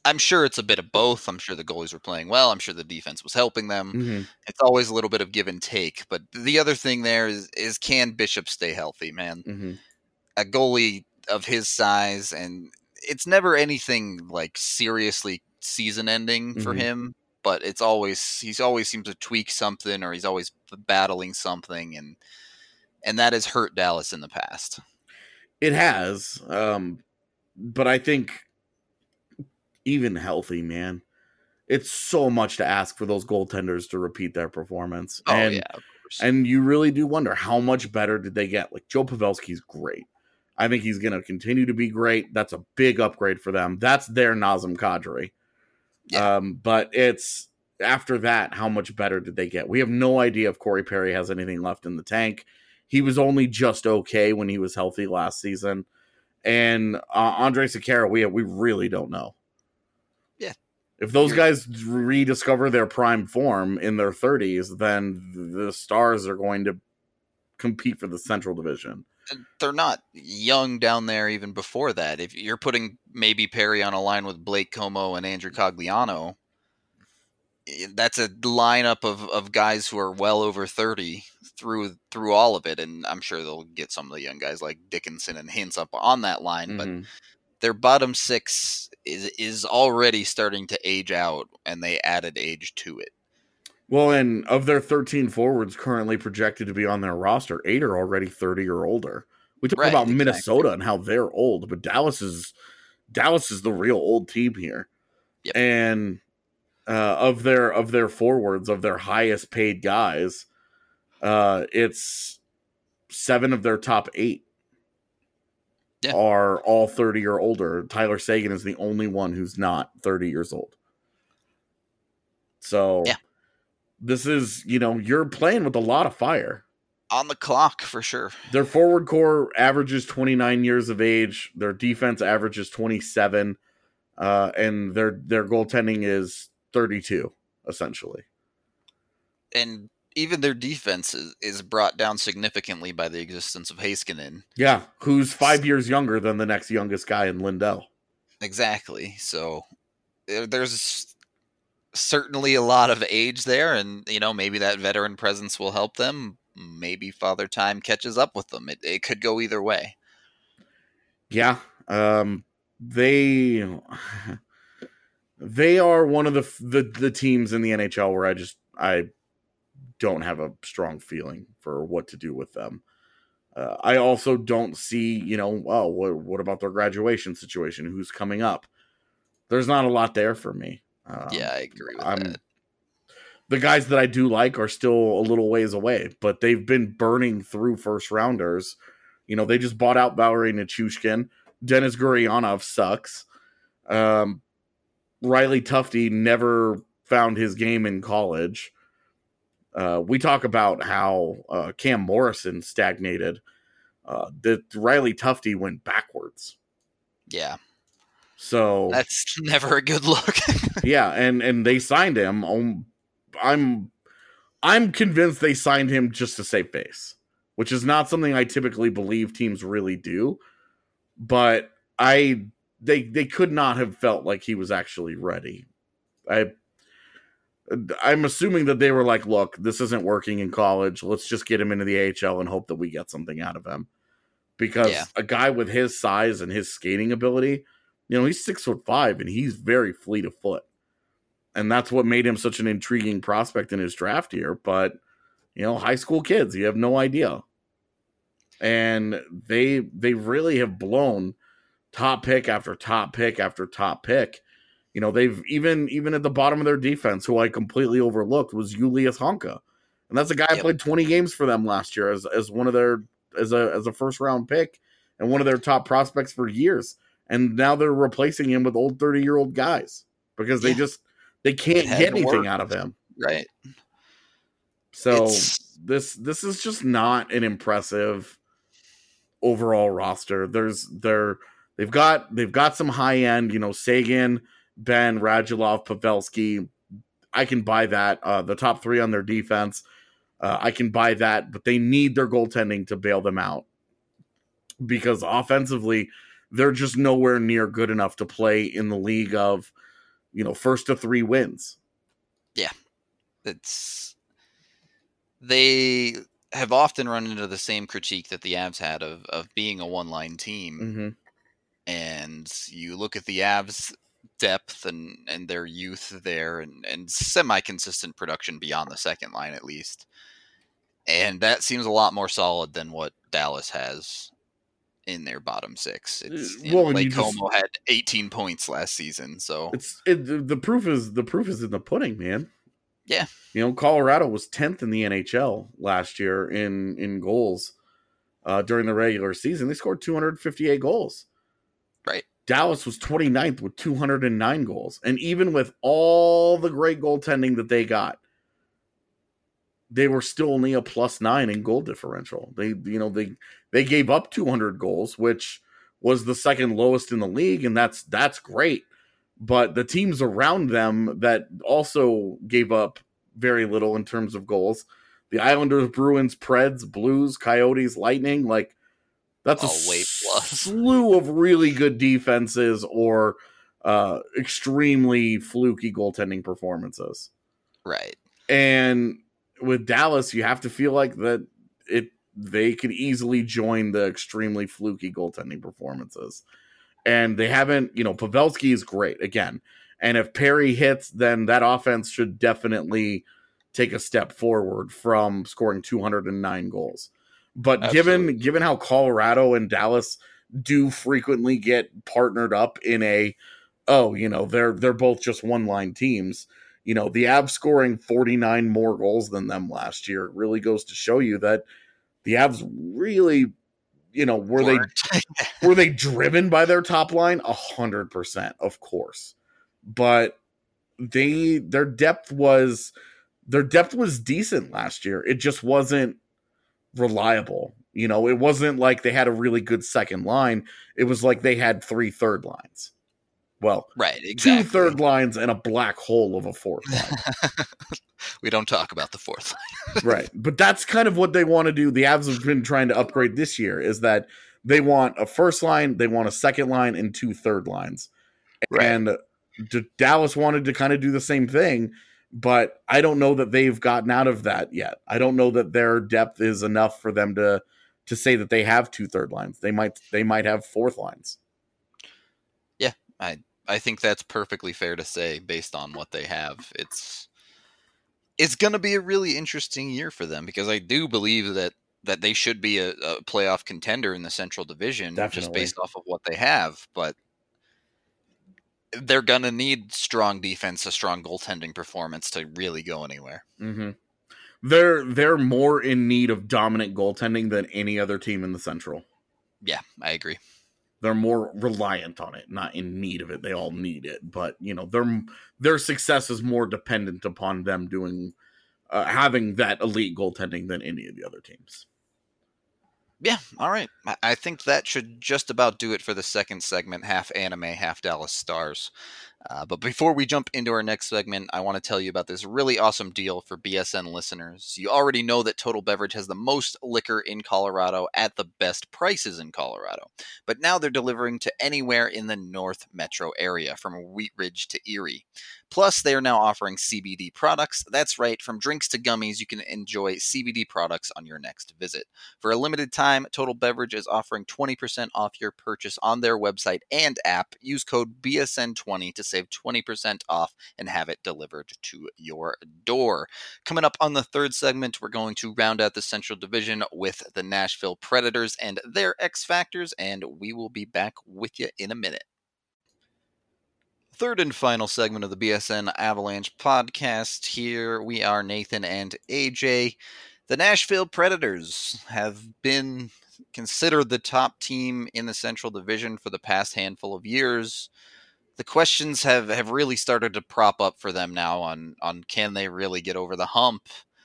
D: I'm sure it's a bit of both. I'm sure the goalies were playing well. I'm sure the defense was helping them.
C: Mm-hmm.
D: It's always a little bit of give and take. But the other thing there is can Bishop stay healthy, man?
C: Mm-hmm.
D: A goalie of his size, and it's never anything like seriously season ending for him. But he's always seems to tweak something, or he's always battling something, and that has hurt Dallas in the past.
C: It has, but I think even healthy, man, it's so much to ask for those goaltenders to repeat their performance.
D: Oh, yeah, of course.
C: And you really do wonder how much better did they get? Like, Joe Pavelski's great. I think he's going to continue to be great. That's a big upgrade for them. That's their Nazem Kadri.
D: Yeah.
C: But it's after that, how much better did they get? We have no idea if Corey Perry has anything left in the tank. He was only just okay when he was healthy last season. And Andre Sekera, we really don't know.
D: Yeah.
C: If those guys rediscover their prime form in their 30s, then the Stars are going to compete for the Central Division.
D: They're not young down there even before that. If you're putting maybe Perry on a line with Blake Como and Andrew Cogliano, that's a lineup of guys who are well over 30 through all of it. And I'm sure they'll get some of the young guys like Dickinson and Hintz up on that line, but their bottom six is already starting to age out, and they added age to it.
C: Well, and of their 13 forwards currently projected to be on their roster, 8 are already 30 or older. We talk about Minnesota and how they're old, but Dallas is the real old team here.
D: Yep.
C: And of their forwards, of their highest paid guys, it's 7 of their top 8 are all 30 or older. Tyler Seguin is the only one who's not 30 years old. So this is, you're playing with a lot of fire.
D: On the clock, for sure.
C: Their forward core averages 29 years of age. Their defense averages 27. And their goaltending is 32, essentially.
D: And even their defense is brought down significantly by the existence of Heiskanen.
C: Yeah, who's 5 years younger than the next youngest guy in Lindell.
D: Exactly. So there's certainly a lot of age there, and maybe that veteran presence will help them. Maybe Father Time catches up with them. It could go either way.
C: Yeah, they are one of the teams in the NHL where I don't have a strong feeling for what to do with them. I also don't see, what about their graduation situation? Who's coming up? There's not a lot there for me.
D: Yeah, I agree with that.
C: The guys that I do like are still a little ways away, but they've been burning through first rounders. They just bought out Valery Nichushkin. Denis Gurianov sucks. Riley Tufte never found his game in college. We talk about how Cam Morrison stagnated. That Riley Tufte went backwards.
D: Yeah.
C: So
D: that's never a good look.
C: Yeah, and they signed him. I'm convinced they signed him just to save face, which is not something I typically believe teams really do. But they could not have felt like he was actually ready. I'm assuming that they were like, look, this isn't working in college. Let's just get him into the AHL and hope that we get something out of him. Because a guy with his size and his skating ability, he's 6'5" and he's very fleet of foot. And that's what made him such an intriguing prospect in his draft year. But, high school kids, you have no idea. And they really have blown top pick after top pick after top pick. They've even at the bottom of their defense, who I completely overlooked, was Julius Honka. And that's a guy who played 20 games for them last year as one of their as a first round pick and one of their top prospects for years. And now they're replacing him with old 30-year-old guys because they can't get anything out of him.
D: Right.
C: So this is just not an impressive overall roster. They've got some high end, Seguin, Ben, Radulov, Pavelski. I can buy that. The top 3 on their defense, I can buy that, but they need their goaltending to bail them out because offensively, they're just nowhere near good enough to play in the league of first to 3 wins.
D: Yeah. They have often run into the same critique that the Avs had of being a one-line team.
C: Mm-hmm.
D: And you look at the Avs depth and their youth there and semi-consistent production beyond the second line at least. And that seems a lot more solid than what Dallas has in their bottom 6. Lake Como had 18 points last season, so
C: the proof is in the pudding, man.
D: Yeah.
C: Colorado was 10th in the NHL last year in goals during the regular season. They scored 258 goals.
D: Right.
C: Dallas was 29th with 209 goals. And even with all the great goaltending that they got, they were still only a +9 in goal differential. They gave up 200 goals, which was the second lowest in the league, and that's great. But the teams around them that also gave up very little in terms of goals, the Islanders, Bruins, Preds, Blues, Coyotes, Lightning, that's a slew of really good defenses or extremely fluky goaltending performances.
D: Right.
C: And with Dallas, you have to feel like that they could easily join the extremely fluky goaltending performances. And they haven't, Pavelski is great again. And if Perry hits, then that offense should definitely take a step forward from scoring 209 goals. But given how Colorado and Dallas do frequently get partnered up in they're both just one-line teams. The Avs scoring 49 more goals than them last year really goes to show you that the Avs really, were they driven by their top line? 100%, of course. But their depth was decent last year. It just wasn't reliable. It wasn't like they had a really good second line. It was like they had 3 third lines. Well,
D: right, exactly.
C: 2 third lines and a black hole of a fourth line.
D: We don't talk about the fourth line.
C: Right. But that's kind of what they want to do. The Avs have been trying to upgrade this year, is that they want a first line, they want a second line, and 2 third lines. Right. And Dallas wanted to kind of do the same thing, but I don't know that they've gotten out of that yet. I don't know that their depth is enough for them to say that they have 2 third lines. They might have fourth lines.
D: Yeah, I think that's perfectly fair to say based on what they have. It's going to be a really interesting year for them because I do believe that they should be a playoff contender in the Central Division. Definitely. Just based off of what they have. But they're going to need strong defense, a strong goaltending performance to really go anywhere.
C: Mm-hmm. They're more in need of dominant goaltending than any other team in the Central.
D: Yeah, I agree.
C: They're more reliant on it, not in need of it. They all need it, but their success is more dependent upon them doing having that elite goaltending than any of the other teams.
D: Yeah, all right. I think that should just about do it for the second segment, half anime, half Dallas Stars. But before we jump into our next segment, I want to tell you about this really awesome deal for BSN listeners. You already know that Total Beverage has the most liquor in Colorado at the best prices in Colorado. But now they're delivering to anywhere in the North Metro area, from Wheat Ridge to Erie. Plus, they are now offering CBD products. That's right, from drinks to gummies, you can enjoy CBD products on your next visit. For a limited time, Total Beverage is offering 20% off your purchase on their website and app. Use code BSN20 to save 20% off and have it delivered to your door. Coming up on the third segment, we're going to round out the Central Division with the Nashville Predators and their X Factors, and we will be back with you in a minute. Third and final segment of the BSN Avalanche podcast. Here we are, Nathan and AJ. The Nashville Predators have been considered the top team in the Central Division for the past handful of years. The questions have really started to prop up for them now on can they really get over the hump.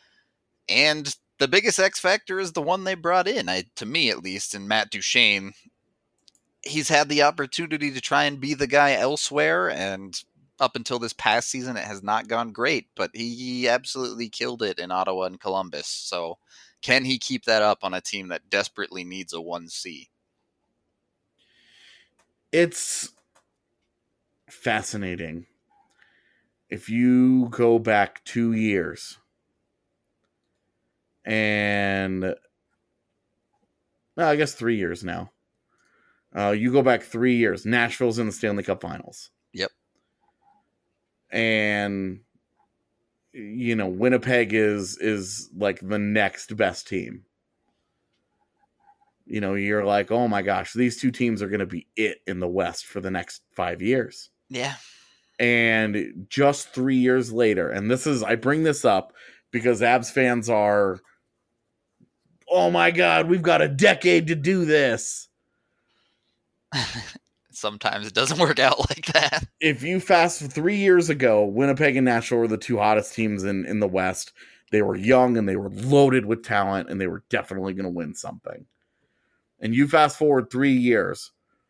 D: And the biggest X factor is the one they brought in, to me at least, in Matt Duchene. He's had the opportunity to try and be the guy elsewhere, and up until this past season, it has not gone great, but he absolutely killed it in Ottawa and Columbus. So can he keep that up on a team that desperately needs a 1C?
C: It's fascinating if you go back 2 years and I guess 3 years now. You go back 3 years. Nashville's in the Stanley Cup Finals.
D: Yep.
C: And Winnipeg is like the next best team. You're like, oh my gosh, these two teams are going to be it in the West for the next 5 years.
D: Yeah.
C: And just 3 years later, and I bring this up because Abs fans are, oh my God, we've got a decade to do this.
D: Sometimes it doesn't work out like that.
C: If you fast 3 years ago, Winnipeg and Nashville were the two hottest teams in the West. They were young and they were loaded with talent and they were definitely going to win something. And you fast forward 3 years,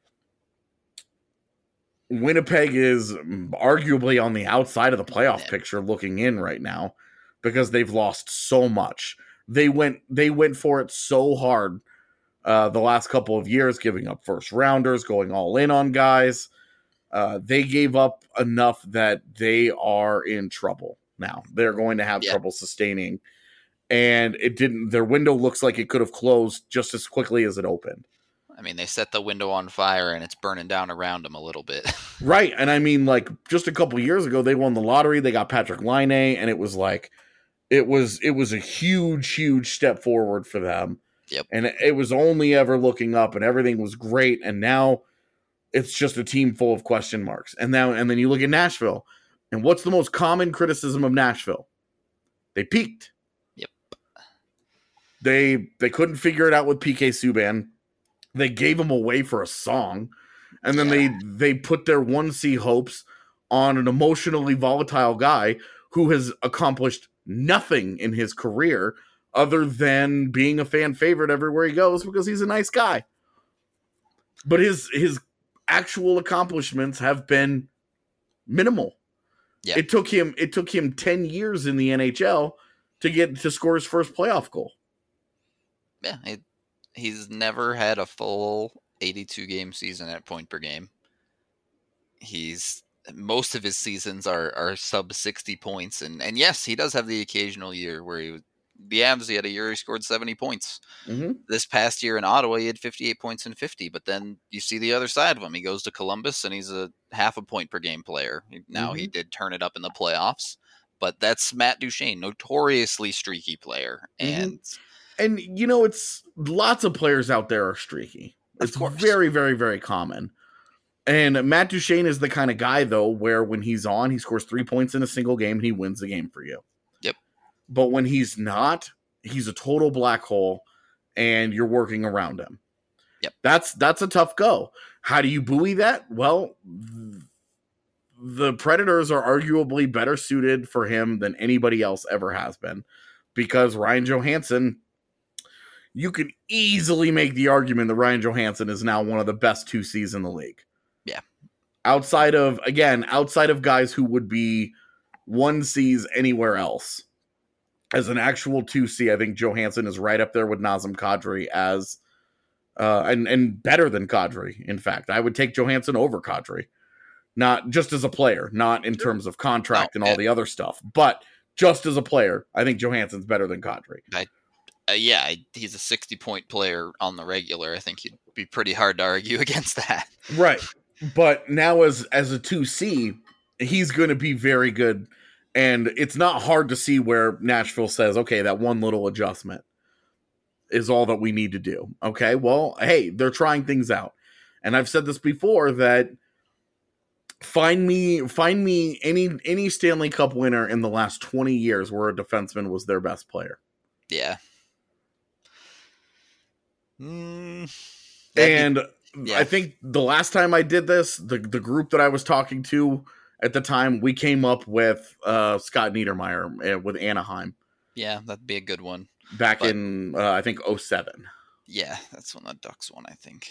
C: Winnipeg is arguably on the outside of the playoff picture looking in right now because they've lost so much. They went for it so hard the last couple of years, giving up first rounders, going all in on guys. They gave up enough that they are in trouble now. They're going to have trouble sustaining. And their window looks like it could have closed just as quickly as it opened.
D: I mean, they set the window on fire and it's burning down around them a little bit.
C: Right. And I mean, like, just a couple years ago, they won the lottery. They got Patrick Laine, and it was like, it was a huge, huge step forward for them.
D: Yep.
C: And it was only ever looking up and everything was great. And now it's just a team full of question marks. And then you look at Nashville, and what's the most common criticism of Nashville? They peaked.
D: Yep.
C: They couldn't figure it out with PK Subban. They gave him away for a song. And then they put their 1C hopes on an emotionally volatile guy who has accomplished nothing in his career other than being a fan favorite everywhere he goes because he's a nice guy. But his actual accomplishments have been minimal.
D: Yeah.
C: It took him 10 years in the NHL to score his first playoff goal.
D: Yeah, he's never had a full 82 game season at point per game. Most of his seasons are sub 60 points, and yes, he does have the occasional year where he had a year he scored 70 points.
C: Mm-hmm.
D: This past year in Ottawa, he had 58 points and 50, but then you see the other side of him. He goes to Columbus and he's a half a point per game player. Now he did turn it up in the playoffs, but that's Matt Duchene, notoriously streaky player. And
C: it's lots of players out there are streaky. It's very, very, very common. And Matt Duchene is the kind of guy, though, where when he's on, he scores 3 points in a single game and he wins the game for you.
D: Yep.
C: But when he's not, he's a total black hole and you're working around him.
D: Yep.
C: That's a tough go. How do you buoy that? Well, the Predators are arguably better suited for him than anybody else ever has been because Ryan Johansson, you could easily make the argument that Ryan Johansson is now one of the best 2Cs in the league.
D: Yeah.
C: Outside of guys who would be 1Cs anywhere else. As an actual 2C, I think Johansson is right up there with Nazem Kadri as and better than Kadri. In fact, I would take Johansson over Kadri. Not just as a player, not in terms of contract and all the other stuff, but just as a player, I think Johansson's better than Kadri.
D: He's a 60-point player on the regular. I think it'd be pretty hard to argue against that.
C: Right. But now as a 2C, he's going to be very good. And it's not hard to see where Nashville says, okay, that one little adjustment is all that we need to do. Okay, well, hey, they're trying things out. And I've said this before that find me any Stanley Cup winner in the last 20 years where a defenseman was their best player.
D: Yeah.
C: I think the last time I did this, the group that I was talking to at the time, we came up with Scott Niedermayer with Anaheim.
D: Yeah, that'd be a good one.
C: In, I think, 2007.
D: Yeah, that's when the Ducks won, I think.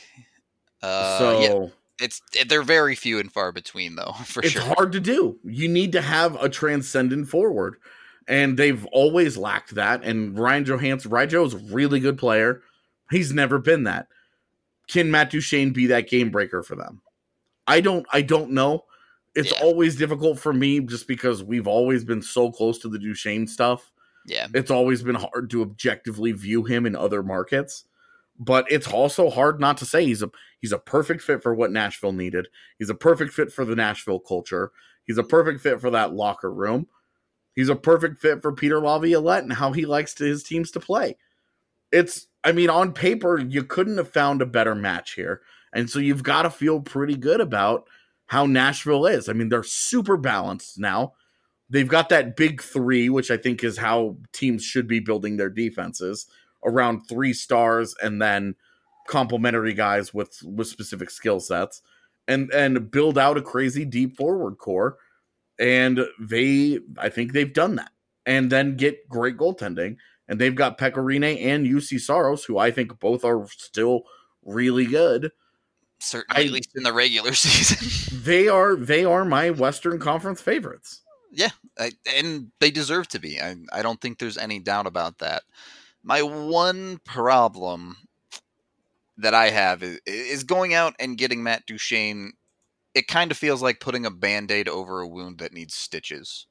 D: They're very few and far between, though, for sure.
C: It's hard to do. You need to have a transcendent forward, and they've always lacked that. And Ryan Johansson, Ryjo's a really good player. He's never been that. Can Matt Duchene be that game breaker for them? I don't know. It's always difficult for me just because we've always been so close to the Duchesne stuff.
D: Yeah.
C: It's always been hard to objectively view him in other markets. But it's also hard not to say he's a perfect fit for what Nashville needed. He's a perfect fit for the Nashville culture. He's a perfect fit for that locker room. He's a perfect fit for Peter Laviolette and how he likes his teams to play. On paper, you couldn't have found a better match here. And so you've got to feel pretty good about how Nashville is. I mean, they're super balanced now. They've got that big three, which I think is how teams should be building their defenses, around 3 stars and then complementary guys with specific skill sets, and build out a crazy deep forward core. And I think they've done that. And then get great goaltending. And they've got Pecorine and UC Saros, who I think both are still really good.
D: Certainly, at least in the regular season.
C: They are my Western Conference favorites.
D: Yeah, and they deserve to be. I don't think there's any doubt about that. My one problem that I have is going out and getting Matt Duchene. It kind of feels like putting a Band-Aid over a wound that needs stitches.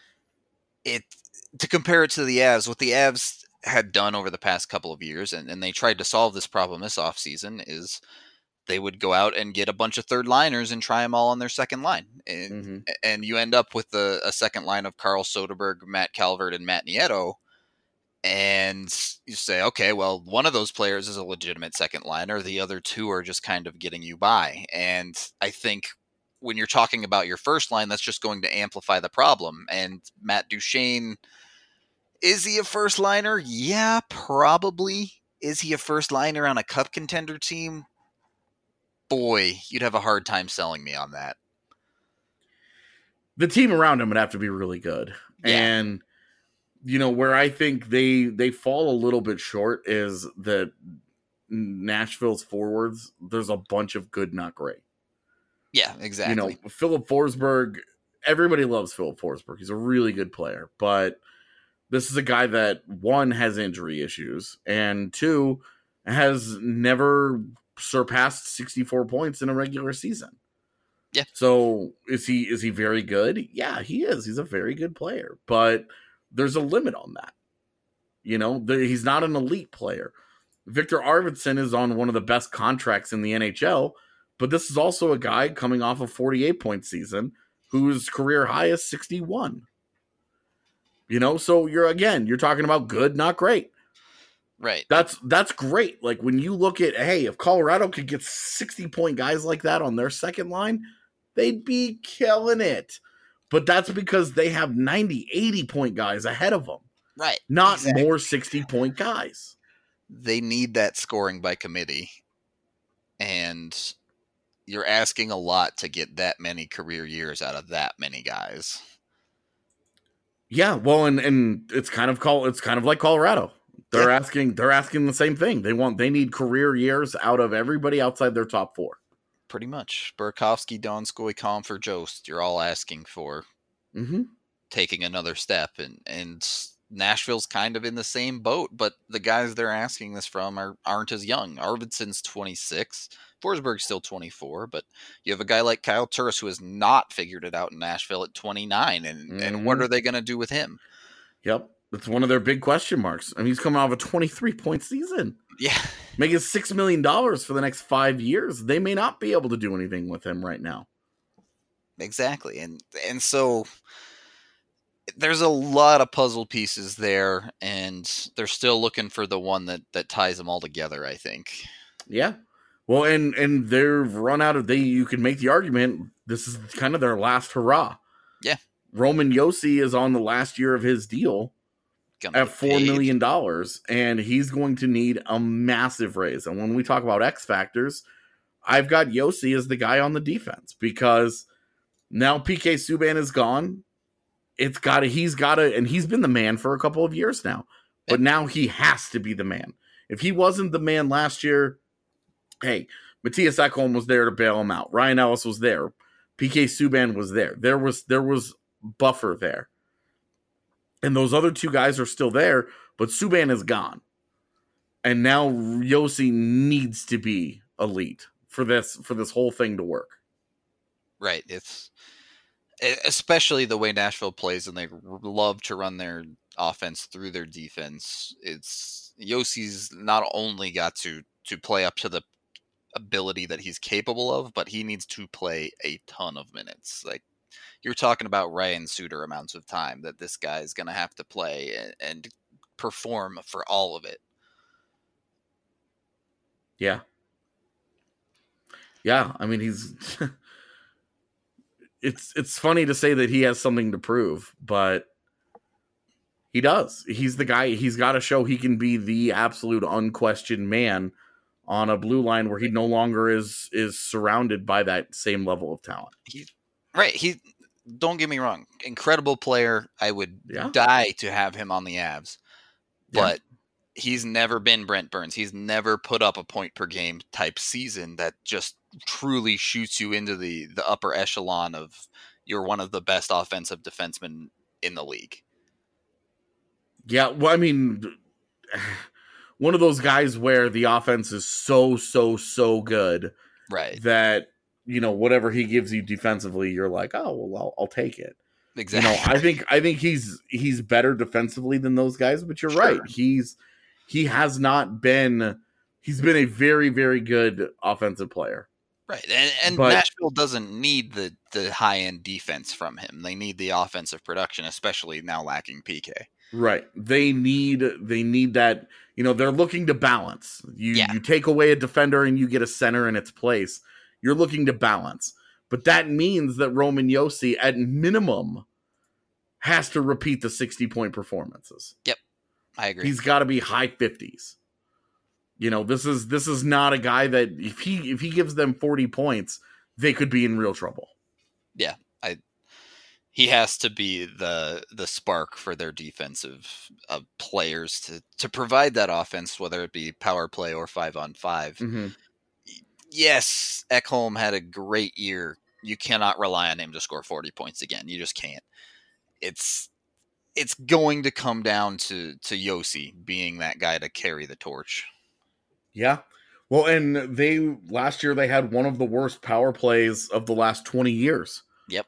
D: To compare it to the Avs, what the Avs had done over the past couple of years, and they tried to solve this problem this offseason, is they would go out and get a bunch of third liners and try them all on their second line. And you end up with a second line of Carl Soderberg, Matt Calvert, and Matt Nieto. And you say, okay, well, one of those players is a legitimate second liner. The other 2 are just kind of getting you by. And I think when you're talking about your first line, that's just going to amplify the problem. And Matt Duchene, is he a first liner? Yeah, probably. Is he a first liner on a cup contender team? Boy, you'd have a hard time selling me on that.
C: The team around him would have to be really good. Yeah. And where I think they fall a little bit short is that Nashville's forwards, there's a bunch of good, not great.
D: Yeah, exactly.
C: Philip Forsberg, everybody loves Philip Forsberg. He's a really good player, but this is a guy that, 1, has injury issues, and 2, has never surpassed 64 points in a regular season.
D: Yeah.
C: So is he very good? Yeah, he is. He's a very good player, but there's a limit on that. He's not an elite player. Victor Arvidsson is on one of the best contracts in the NHL, but this is also a guy coming off a 48-point season whose career high is 61. So you're talking about good, not great.
D: Right.
C: That's great. Like when you look at, hey, if Colorado could get 60-point guys like that on their second line, they'd be killing it. But that's because they have 90, 80-point guys ahead of them.
D: Right.
C: Not exactly. More 60-point guys.
D: They need that scoring by committee. And you're asking a lot to get that many career years out of that many guys.
C: Yeah, well, and it's kind of like Colorado. They're asking the same thing. They need career years out of everybody outside their top 4.
D: Pretty much. Burakovsky, Donskoy, Comfort, Jost, you're all asking for taking another step. And Nashville's kind of in the same boat, but the guys they're asking this from aren't as young. Arvidsson's 26. Forsberg's still 24, but you have a guy like Kyle Turris who has not figured it out in Nashville at 29, and what are they going to do with him?
C: Yep. That's one of their big question marks. I mean, he's coming off a 23-point season.
D: Yeah.
C: Making $6 million for the next 5 years. They may not be able to do anything with him right now.
D: Exactly. And so there's a lot of puzzle pieces there, and they're still looking for the one that ties them all together, I think.
C: Yeah. Well, and they've run out of, you can make the argument, this is kind of their last hurrah.
D: Yeah.
C: Roman Josi is on the last year of his deal at $4 million, and he's going to need a massive raise. And when we talk about X factors, I've got Josi as the guy on the defense, because now PK Subban is gone. He's got to, and he's been the man for a couple of years now, but now he has to be the man. If he wasn't the man last year, hey, Matthias Ekholm was there to bail him out. Ryan Ellis was there. PK Subban was there. There was buffer there. And those other 2 guys are still there, but Subban is gone. And now Josi needs to be elite for this whole thing to work.
D: Right. It's especially the way Nashville plays, and they love to run their offense through their defense. It's Yossi's not only got to play up to the ability that he's capable of, but he needs to play a ton of minutes. Like, you're talking about Ryan Suter amounts of time that this guy is going to have to play and perform for all of it.
C: Yeah. Yeah, I mean, he's it's funny to say that he has something to prove, but he does. He's the guy. He's got to show he can be the absolute unquestioned man on a blue line where he no longer is surrounded by that same level of talent.
D: He don't get me wrong, incredible player. I would die to have him on the Avs, but he's never been Brent Burns. He's never put up a point per game type season that just truly shoots you into the upper echelon of you're one of the best offensive defensemen in the league.
C: Yeah, well, I mean, one of those guys where the offense is so good,
D: right?
C: That, you know, whatever he gives you defensively, you're like, oh well, I'll take it.
D: Exactly.
C: You know, I think he's better defensively than those guys, but you're right. He's been a very, very good offensive player.
D: Right. And Nashville doesn't need the high end defense from him. They need the offensive production, especially now lacking PK.
C: Right. They need that, you know, they're looking to balance. You take away a defender and you get a center in its place. You're looking to balance. But that means that Roman Josi, at minimum, has to repeat the 60-point performances.
D: Yep. I agree.
C: He's got to be high 50s. You know, this is not a guy that if he gives them 40 points, they could be in real trouble.
D: Yeah. He has to be the spark for their defensive players to provide that offense, whether it be power play or 5-on-5.
C: Mm-hmm.
D: Yes, Ekholm had a great year. You cannot rely on him to score 40 points again. You just can't. It's going to come down to Josi being that guy to carry the torch.
C: Yeah. Well, and last year they had one of the worst power plays of the last 20 years.
D: Yep.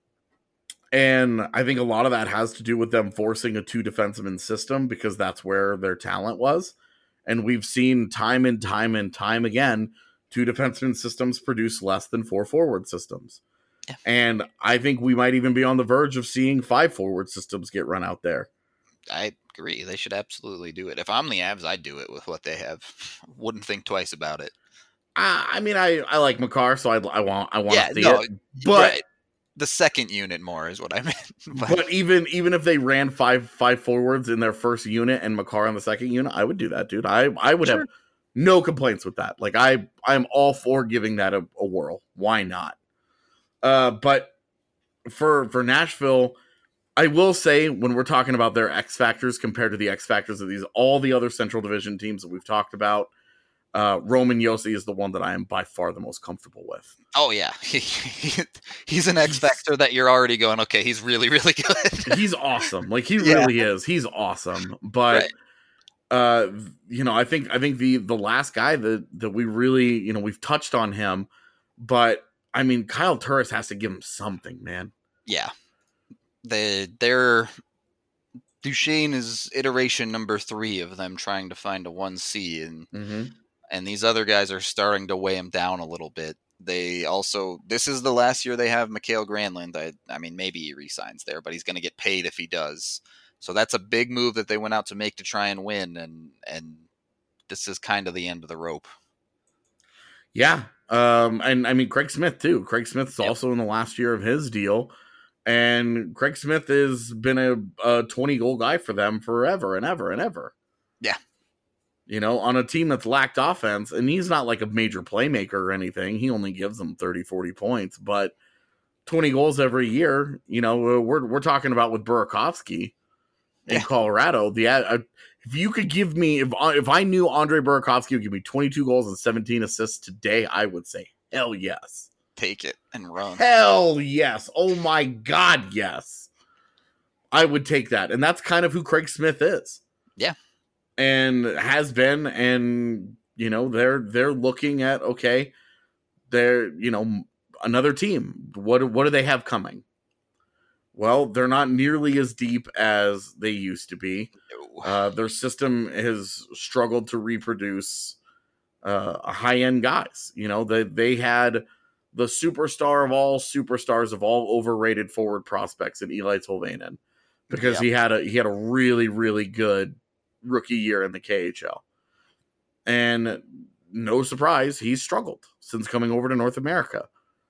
C: And I think a lot of that has to do with them forcing a 2 defenseman system because that's where their talent was. And we've seen time and time again, 2 defenseman systems produce less than 4 forward systems.
D: Yeah.
C: And I think we might even be on the verge of seeing 5 forward systems get run out there.
D: I agree. They should absolutely do it. If I'm the Avs, I'd do it with what they have. Wouldn't think twice about it.
C: I mean, I like Makar, so I want to see it. But
D: right. The second unit more is what I meant.
C: But even if they ran five forwards in their first unit and Makar on the second unit, I would do that, dude. I would have no complaints with that. Like I'm all for giving that a whirl. Why not? But for Nashville, I will say when we're talking about their X factors compared to the X factors of all the other Central Division teams that we've talked about, Roman Josi is the one that I am by far the most comfortable with.
D: Oh yeah, he's an X factor that you're already going, okay, he's really, really good.
C: He's awesome. Like he really is. He's awesome. But you know, I think the last guy that we really, you know, we've touched on him, but I mean, Kyle Turris has to give him something, man.
D: Yeah. Their Duchesne is iteration number 3 of them trying to find a 1C, and these other guys are starting to weigh him down a little bit. They also, this is the last year they have Mikael Granlund. I mean, maybe he resigns there, but he's going to get paid if he does. So that's a big move that they went out to make to try and win, and this is kind of the end of the rope.
C: Yeah, and I mean Craig Smith too. Craig Smith's also in the last year of his deal. And Craig Smith has been a 20-goal guy for them forever and ever and ever.
D: Yeah.
C: You know, on a team that's lacked offense, and he's not like a major playmaker or anything. He only gives them 30, 40 points, but 20 goals every year, you know, we're talking about with Burakovsky in Colorado. If you could give me, if I knew Andre Burakovsky would give me 22 goals and 17 assists today, I would say, hell yes.
D: Take it and run.
C: Hell yes. Oh my God, yes. I would take that. And that's kind of who Craig Smith is.
D: Yeah.
C: And has been, and you know, they're looking at, okay, they're, you know, another team. What do they have coming? Well, they're not nearly as deep as they used to be.
D: No.
C: Their system has struggled to reproduce high-end guys. You know, they had the superstar of all superstars of all overrated forward prospects in Eli Tolvanen because he had a really, really good rookie year in the KHL. And no surprise, he's struggled since coming over to North America.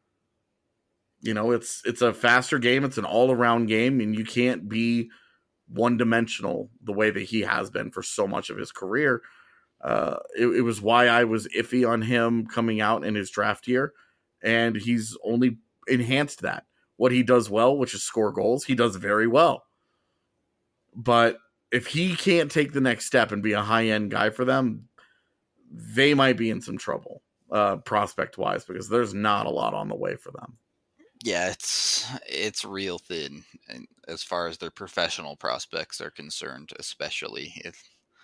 C: You know, it's a faster game. It's an all-around game, and you can't be one-dimensional the way that he has been for so much of his career. It was why I was iffy on him coming out in his draft year, and he's only enhanced that. What he does well, which is score goals, he does very well. But if he can't take the next step and be a high-end guy for them, they might be in some trouble, prospect-wise, because there's not a lot on the way for them.
D: Yeah, it's real thin, and as far as their professional prospects are concerned, especially. It's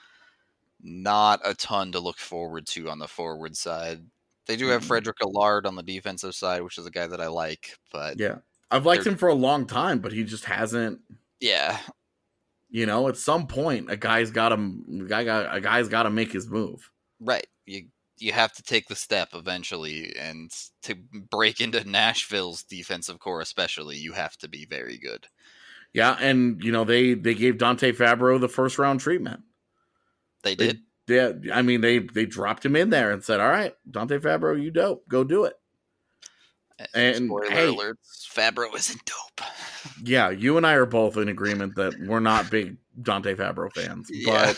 D: not a ton to look forward to on the forward side. They do have Frederick Allard on the defensive side, which is a guy that I like, but
C: yeah, I've liked him for a long time, but he just hasn't.
D: Yeah,
C: you know, at some point, a guy's got to make his move.
D: Right. You have to take the step eventually, and to break into Nashville's defensive core especially, you have to be very good.
C: Yeah, and you know they gave Dante Fabro the first round treatment.
D: They did.
C: Yeah, I mean they dropped him in there and said, "All right, Dante Fabro, you dope, go do it." And
D: spoiler alerts, Fabro isn't dope.
C: Yeah, you and I are both in agreement that we're not big Dante Fabro fans, but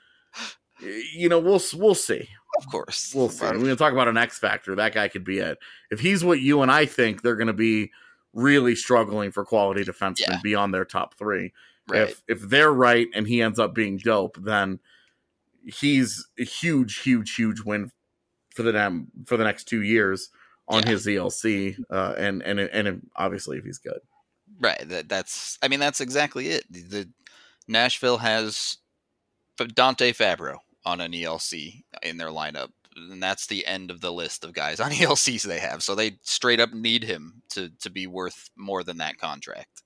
C: you know we'll see.
D: Of course.
C: We'll see. We're going to talk about an X factor. That guy could be it. If he's what you and I think, they're going to be really struggling for quality defensemen beyond their top three.
D: Right.
C: If they're right and he ends up being dope, then he's a huge win for the next 2 years on his ELC. And obviously if he's good.
D: Right. That's exactly it. The Nashville has Dante Fabro on an ELC in their lineup, and that's the end of the list of guys on ELCs they have. So they straight up need him to be worth more than that contract.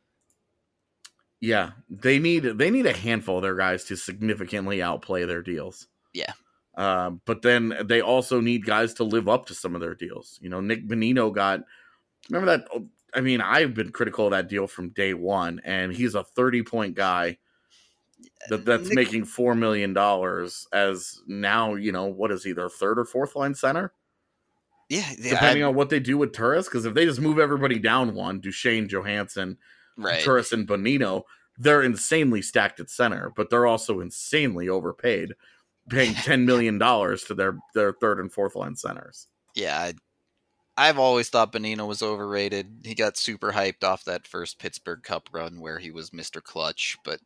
C: Yeah, they need a handful of their guys to significantly outplay their deals.
D: Yeah.
C: But then they also need guys to live up to some of their deals. You know, Nick Bonino remember that? I mean, I've been critical of that deal from day one, and he's a 30-point guy that's making $4 million as now, you know, what is he, their third or fourth line center?
D: Yeah.
C: Depending on what they do with Turris, because if they just move everybody down one, Duchesne, Johansson, Turris, and Bonino, they're insanely stacked at center, but they're also insanely overpaid, paying $10 million to their third and fourth line centers.
D: Yeah, I've always thought Bonino was overrated. He got super hyped off that first Pittsburgh Cup run where he was Mr. Clutch, but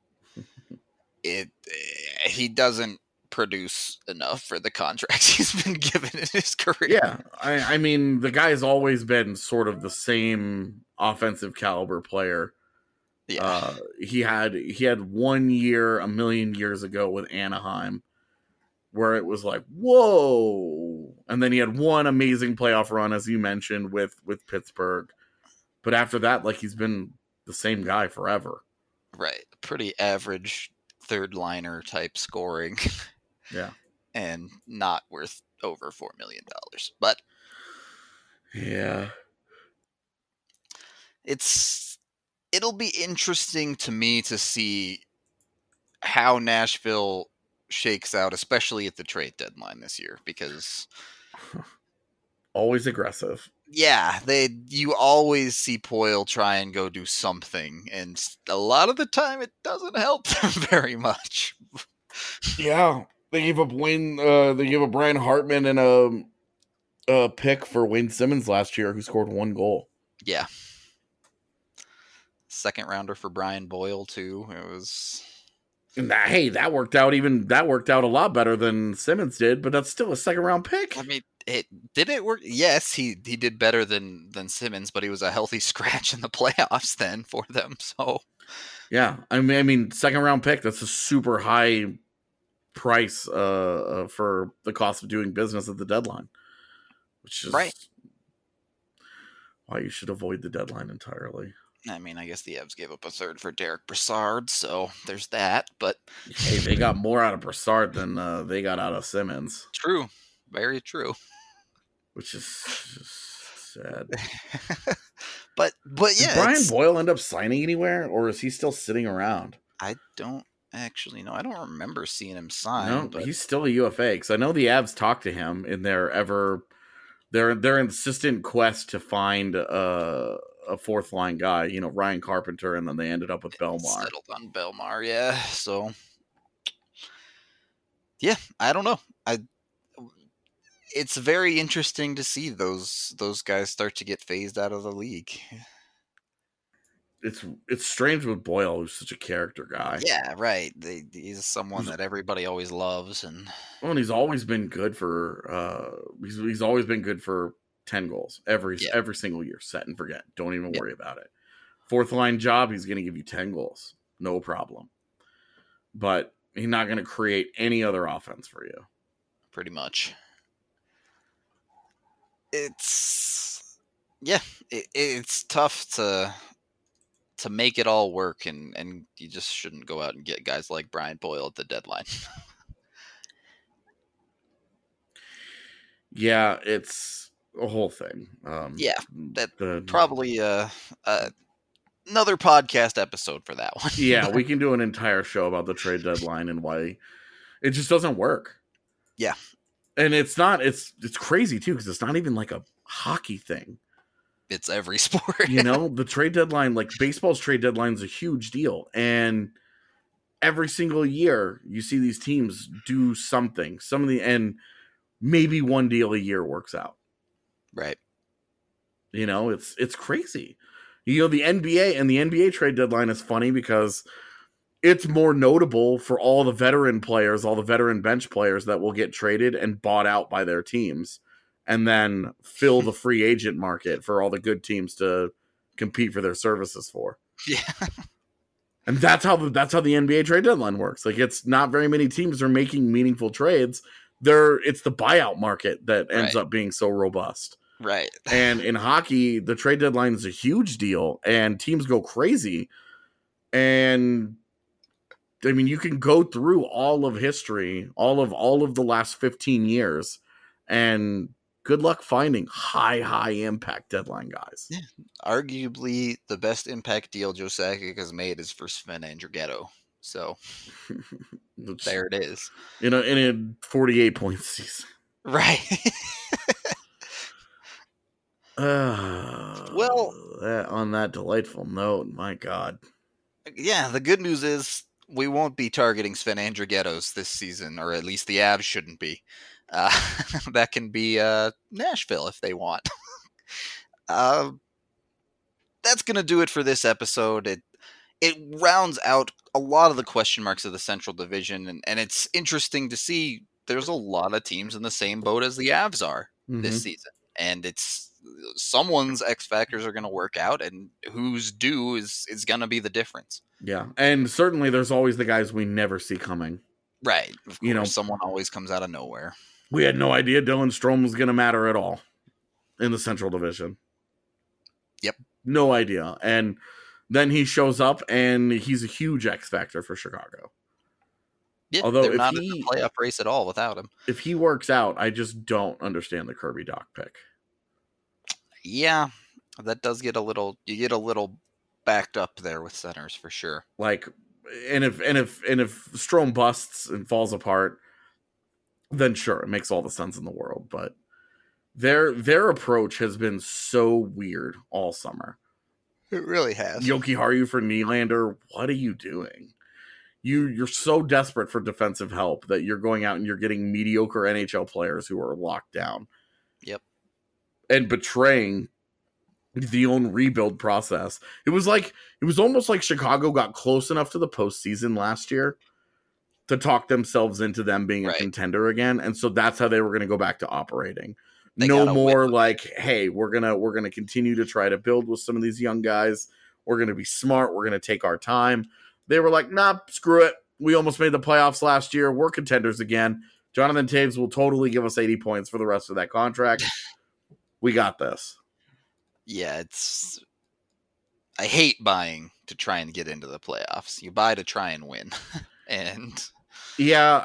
D: he doesn't produce enough for the contracts he's been given in his career.
C: Yeah, I mean, the guy's always been sort of the same offensive caliber player.
D: Yeah.
C: He had 1 year a million years ago with Anaheim where it was like, whoa. And then he had one amazing playoff run, as you mentioned, with Pittsburgh. But after that, like, he's been the same guy forever.
D: Right. Pretty average third liner type scoring.
C: Yeah.
D: And not worth over $4 million. But
C: yeah.
D: It'll be interesting to me to see how Nashville shakes out, especially at the trade deadline this year, because
C: always aggressive.
D: Yeah, you always see Poile try and go do something, and a lot of the time it doesn't help them very much.
C: Yeah, they gave up Brian Hartman and a pick for Wayne Simmons last year, who scored 1 goal.
D: Yeah, second rounder for Brian Boyle too. It was.
C: Hey, that worked out a lot better than Simmons did, but that's still a second round pick.
D: I mean, did it work? Yes, he did better than Simmons, but he was a healthy scratch in the playoffs then for them. So
C: yeah, I mean, second round pick, that's a super high price for the cost of doing business at the deadline, which is
D: right.
C: Why you should avoid the deadline entirely.
D: I mean, I guess the Avs gave up a third for Derek Brassard, so there's that. But
C: Hey, they got more out of Brassard than they got out of Simmons.
D: True. Very true.
C: Which is just sad.
D: but yeah.
C: Did Brian Boyle end up signing anywhere, or is he still sitting around?
D: I don't actually know. I don't remember seeing him sign.
C: No,
D: but
C: he's still a UFA, because I know the Avs talked to him in their insistent quest to find a fourth line guy, Ryan Carpenter, and then they ended up with Belmar.
D: Settled on Belmar, yeah. So, yeah, I don't know. It's very interesting to see those guys start to get phased out of the league.
C: It's strange with Boyle, who's such a character guy.
D: Yeah, right. He's someone that everybody always loves, and
C: he's always been good for he's always been good for 10 goals every single year. Set and forget. Don't even worry about it. Fourth line job, he's going to give you 10 goals, no problem. But he's not going to create any other offense for you.
D: Pretty much. It's tough to make it all work, and you just shouldn't go out and get guys like Brian Boyle at the deadline.
C: Yeah, it's a whole thing.
D: Probably another podcast episode for that one.
C: Yeah, we can do an entire show about the trade deadline and why it just doesn't work.
D: Yeah.
C: And it's crazy too, because it's not even like a hockey thing.
D: It's every sport.
C: The trade deadline, like baseball's trade deadline, is a huge deal. And every single year you see these teams do something. And maybe one deal a year works out.
D: Right.
C: It's crazy. The NBA trade deadline is funny because it's more notable for all the veteran players, all the veteran bench players that will get traded and bought out by their teams, and then fill the free agent market for all the good teams to compete for their services for.
D: Yeah.
C: And that's how the NBA trade deadline works. Like, it's not very many teams are making meaningful trades. It's the buyout market that ends up being so robust.
D: Right.
C: And in hockey, the trade deadline is a huge deal, and teams go crazy. And I mean, you can go through all of history, all of the last 15 years, and good luck finding high impact deadline guys. Yeah.
D: Arguably, the best impact deal Joe Sakic has made is for Sven Andrighetto. So there it is.
C: In a 48-point season.
D: Right.
C: Well, on that delightful note, my God.
D: Yeah, the good news is we won't be targeting Sven Andrighettos this season, or at least the Avs shouldn't be. That can be Nashville if they want. That's going to do it for this episode. It rounds out a lot of the question marks of the Central Division, and it's interesting to see there's a lot of teams in the same boat as the Avs are this season. And it's someone's X factors are going to work out, and who's due is going to be the difference.
C: Yeah, and certainly there's always the guys we never see coming.
D: Right. Of course, someone always comes out of nowhere.
C: We had no idea Dylan Strome was going to matter at all in the Central Division.
D: Yep.
C: No idea. And then he shows up, and he's a huge X factor for Chicago.
D: Yeah, although they're not in the playoff race at all without him.
C: If he works out, I just don't understand the Kirby Dach pick.
D: Yeah, that does get a little backed up there with centers for sure.
C: Like, and if Strome busts and falls apart, then sure, it makes all the sense in the world. But their approach has been so weird all summer.
D: It really has.
C: Jokiharju for Nylander, what are you doing? You're so desperate for defensive help that you're going out and you're getting mediocre NHL players who are locked down.
D: Yep.
C: And betraying the own rebuild process. It was almost like Chicago got close enough to the postseason last year to talk themselves into them being a contender again. And so that's how they were going to go back to operating. No more like, hey, we're going to continue to try to build with some of these young guys. We're going to be smart. We're going to take our time. They were like, nah, screw it. We almost made the playoffs last year. We're contenders again. Jonathan Toews will totally give us 80 points for the rest of that contract. We got this.
D: Yeah, I hate buying to try and get into the playoffs. You buy to try and win. And
C: yeah,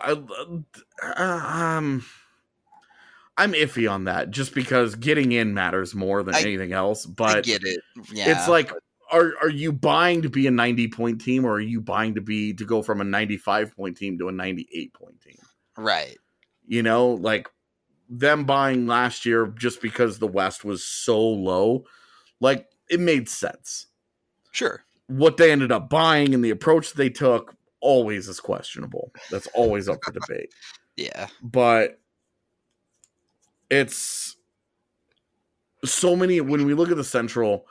C: I'm iffy on that just because getting in matters more than anything else. But
D: I get it. Yeah,
C: it's like, are you buying to be a 90-point team, or are you buying to go from a 95-point team to a 98-point team?
D: Right.
C: You know, like them buying last year just because the West was so low, like it made sense.
D: Sure.
C: What they ended up buying and the approach they took always is questionable. That's always up for debate.
D: Yeah.
C: But it's so many, when we look at the Central,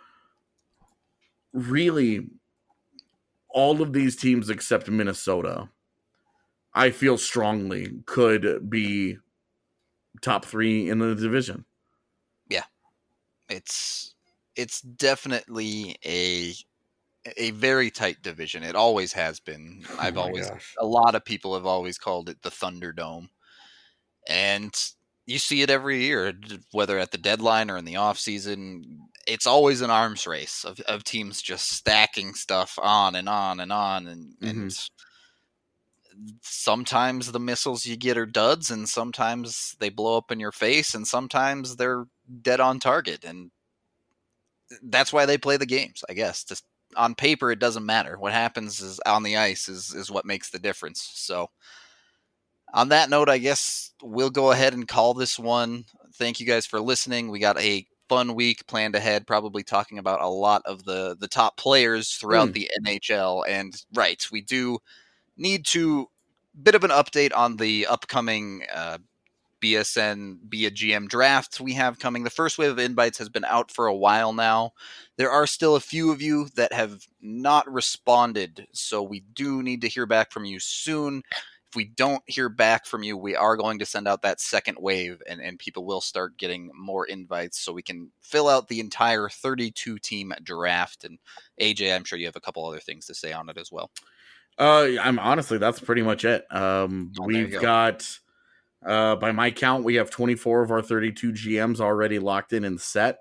C: really all of these teams except Minnesota, I feel strongly could be top 3 in the division.
D: Yeah. It's definitely a very tight division. It always has been. A lot of people have always called it the Thunderdome. And you see it every year, whether at the deadline or in the off season. It's always an arms race of teams just stacking stuff on and on and on. And sometimes the missiles you get are duds, and sometimes they blow up in your face, and sometimes they're dead on target. And that's why they play the games, I guess. Just on paper, it doesn't matter. What happens is on the ice is what makes the difference. So on that note, I guess we'll go ahead and call this one. Thank you guys for listening. We got a fun week planned ahead, probably talking about a lot of the top players throughout the NHL. And right, we do need to bit of an update on the upcoming BSN Be a GM draft we have coming. The first wave of invites has been out for a while now. There are still a few of you that have not responded, so we do need to hear back from you soon. If we don't hear back from you, we are going to send out that second wave, and people will start getting more invites so we can fill out the entire 32-team draft. And AJ, I'm sure you have a couple other things to say on it as well.
C: I'm honestly, that's pretty much it. We've got, by my count, we have 24 of our 32 GMs already locked in and set.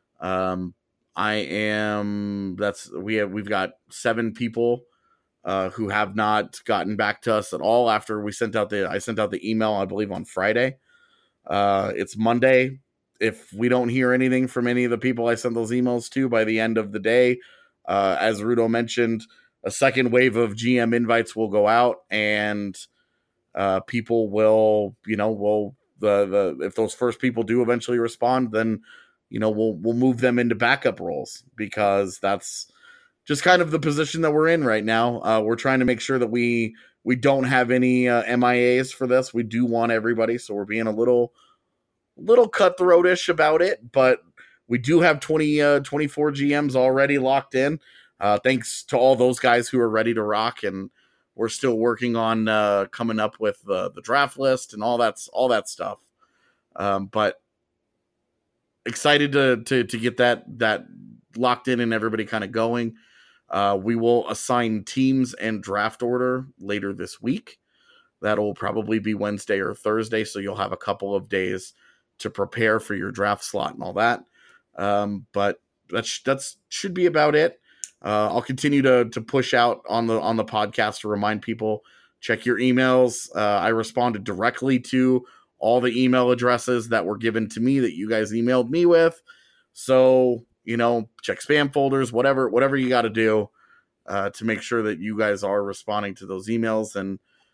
C: We've got 7 people who have not gotten back to us at all after I sent out the email, I believe, on Friday. It's Monday. If we don't hear anything from any of the people I sent those emails to by the end of the day, as Rudo mentioned, a second wave of GM invites will go out, and people will, if those first people do eventually respond, then, we'll move them into backup roles, because that's just kind of the position that we're in right now. We're trying to make sure that we don't have any MIAs for this. We do want everybody, so we're being a little cutthroatish about it, but we do have 24 GMs already locked in. Thanks to all those guys who are ready to rock, and we're still working on coming up with the draft list and all that stuff. But excited to get that locked in and everybody kind of going. We will assign teams and draft order later this week. That'll probably be Wednesday or Thursday, so you'll have a couple of days to prepare for your draft slot and all that. But that should be about it. I'll continue to push out on the podcast to remind people, check your emails. I responded directly to all the email addresses that were given to me that you guys emailed me with. So, check spam folders, whatever you got to do to make sure that you guys are responding to those emails. And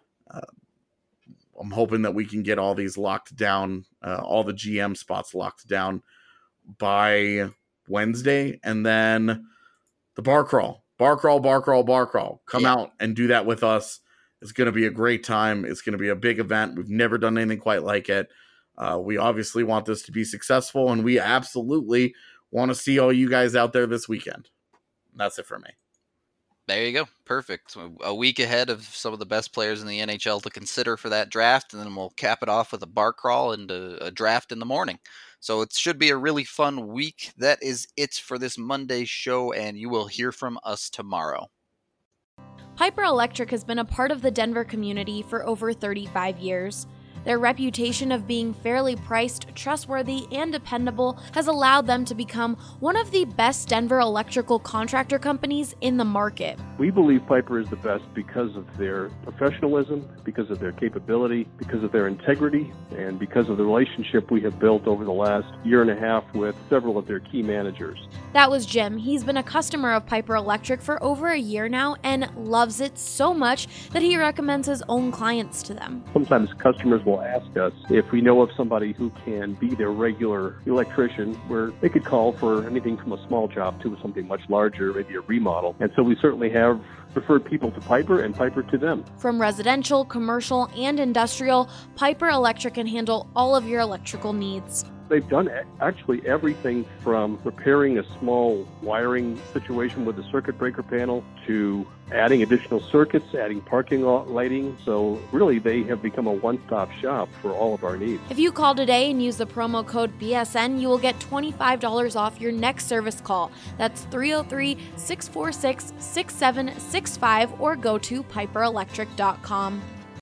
C: I'm hoping that we can get all these locked down, all the GM spots locked down by Wednesday. And then the bar crawl. Come out and do that with us. It's going to be a great time. It's going to be a big event. We've never done anything quite like it. We obviously want this to be successful, and we absolutely want to see all you guys out there this weekend. That's it for me.
D: There you go. Perfect. A week ahead of some of the best players in the NHL to consider for that draft, and then we'll cap it off with a bar crawl and a draft in the morning. So it should be a really fun week. That is it for this Monday show, and you will hear from us tomorrow.
A: Piper Electric has been a part of the Denver community for over 35 years. Their reputation of being fairly priced, trustworthy, and dependable has allowed them to become one of the best Denver electrical contractor companies in the market.
E: We believe Piper is the best because of their professionalism, because of their capability, because of their integrity, and because of the relationship we have built over the last year and a half with several of their key managers.
A: That was Jim. He's been a customer of Piper Electric for over a year now and loves it so much that he recommends his own clients to them.
E: Sometimes customers will ask us if we know of somebody who can be their regular electrician, where they could call for anything from a small job to something much larger, maybe a remodel. And so we certainly have referred people to Piper and Piper to them.
A: From residential, commercial, and industrial, Piper Electric can handle all of your electrical needs.
E: They've done actually everything from repairing a small wiring situation with a circuit breaker panel to adding additional circuits, adding parking lot lighting. So really, they have become a one-stop shop for all of our needs.
A: If you call today and use the promo code BSN, you will get $25 off your next service call. That's 303-646-6765 or go to piperelectric.com.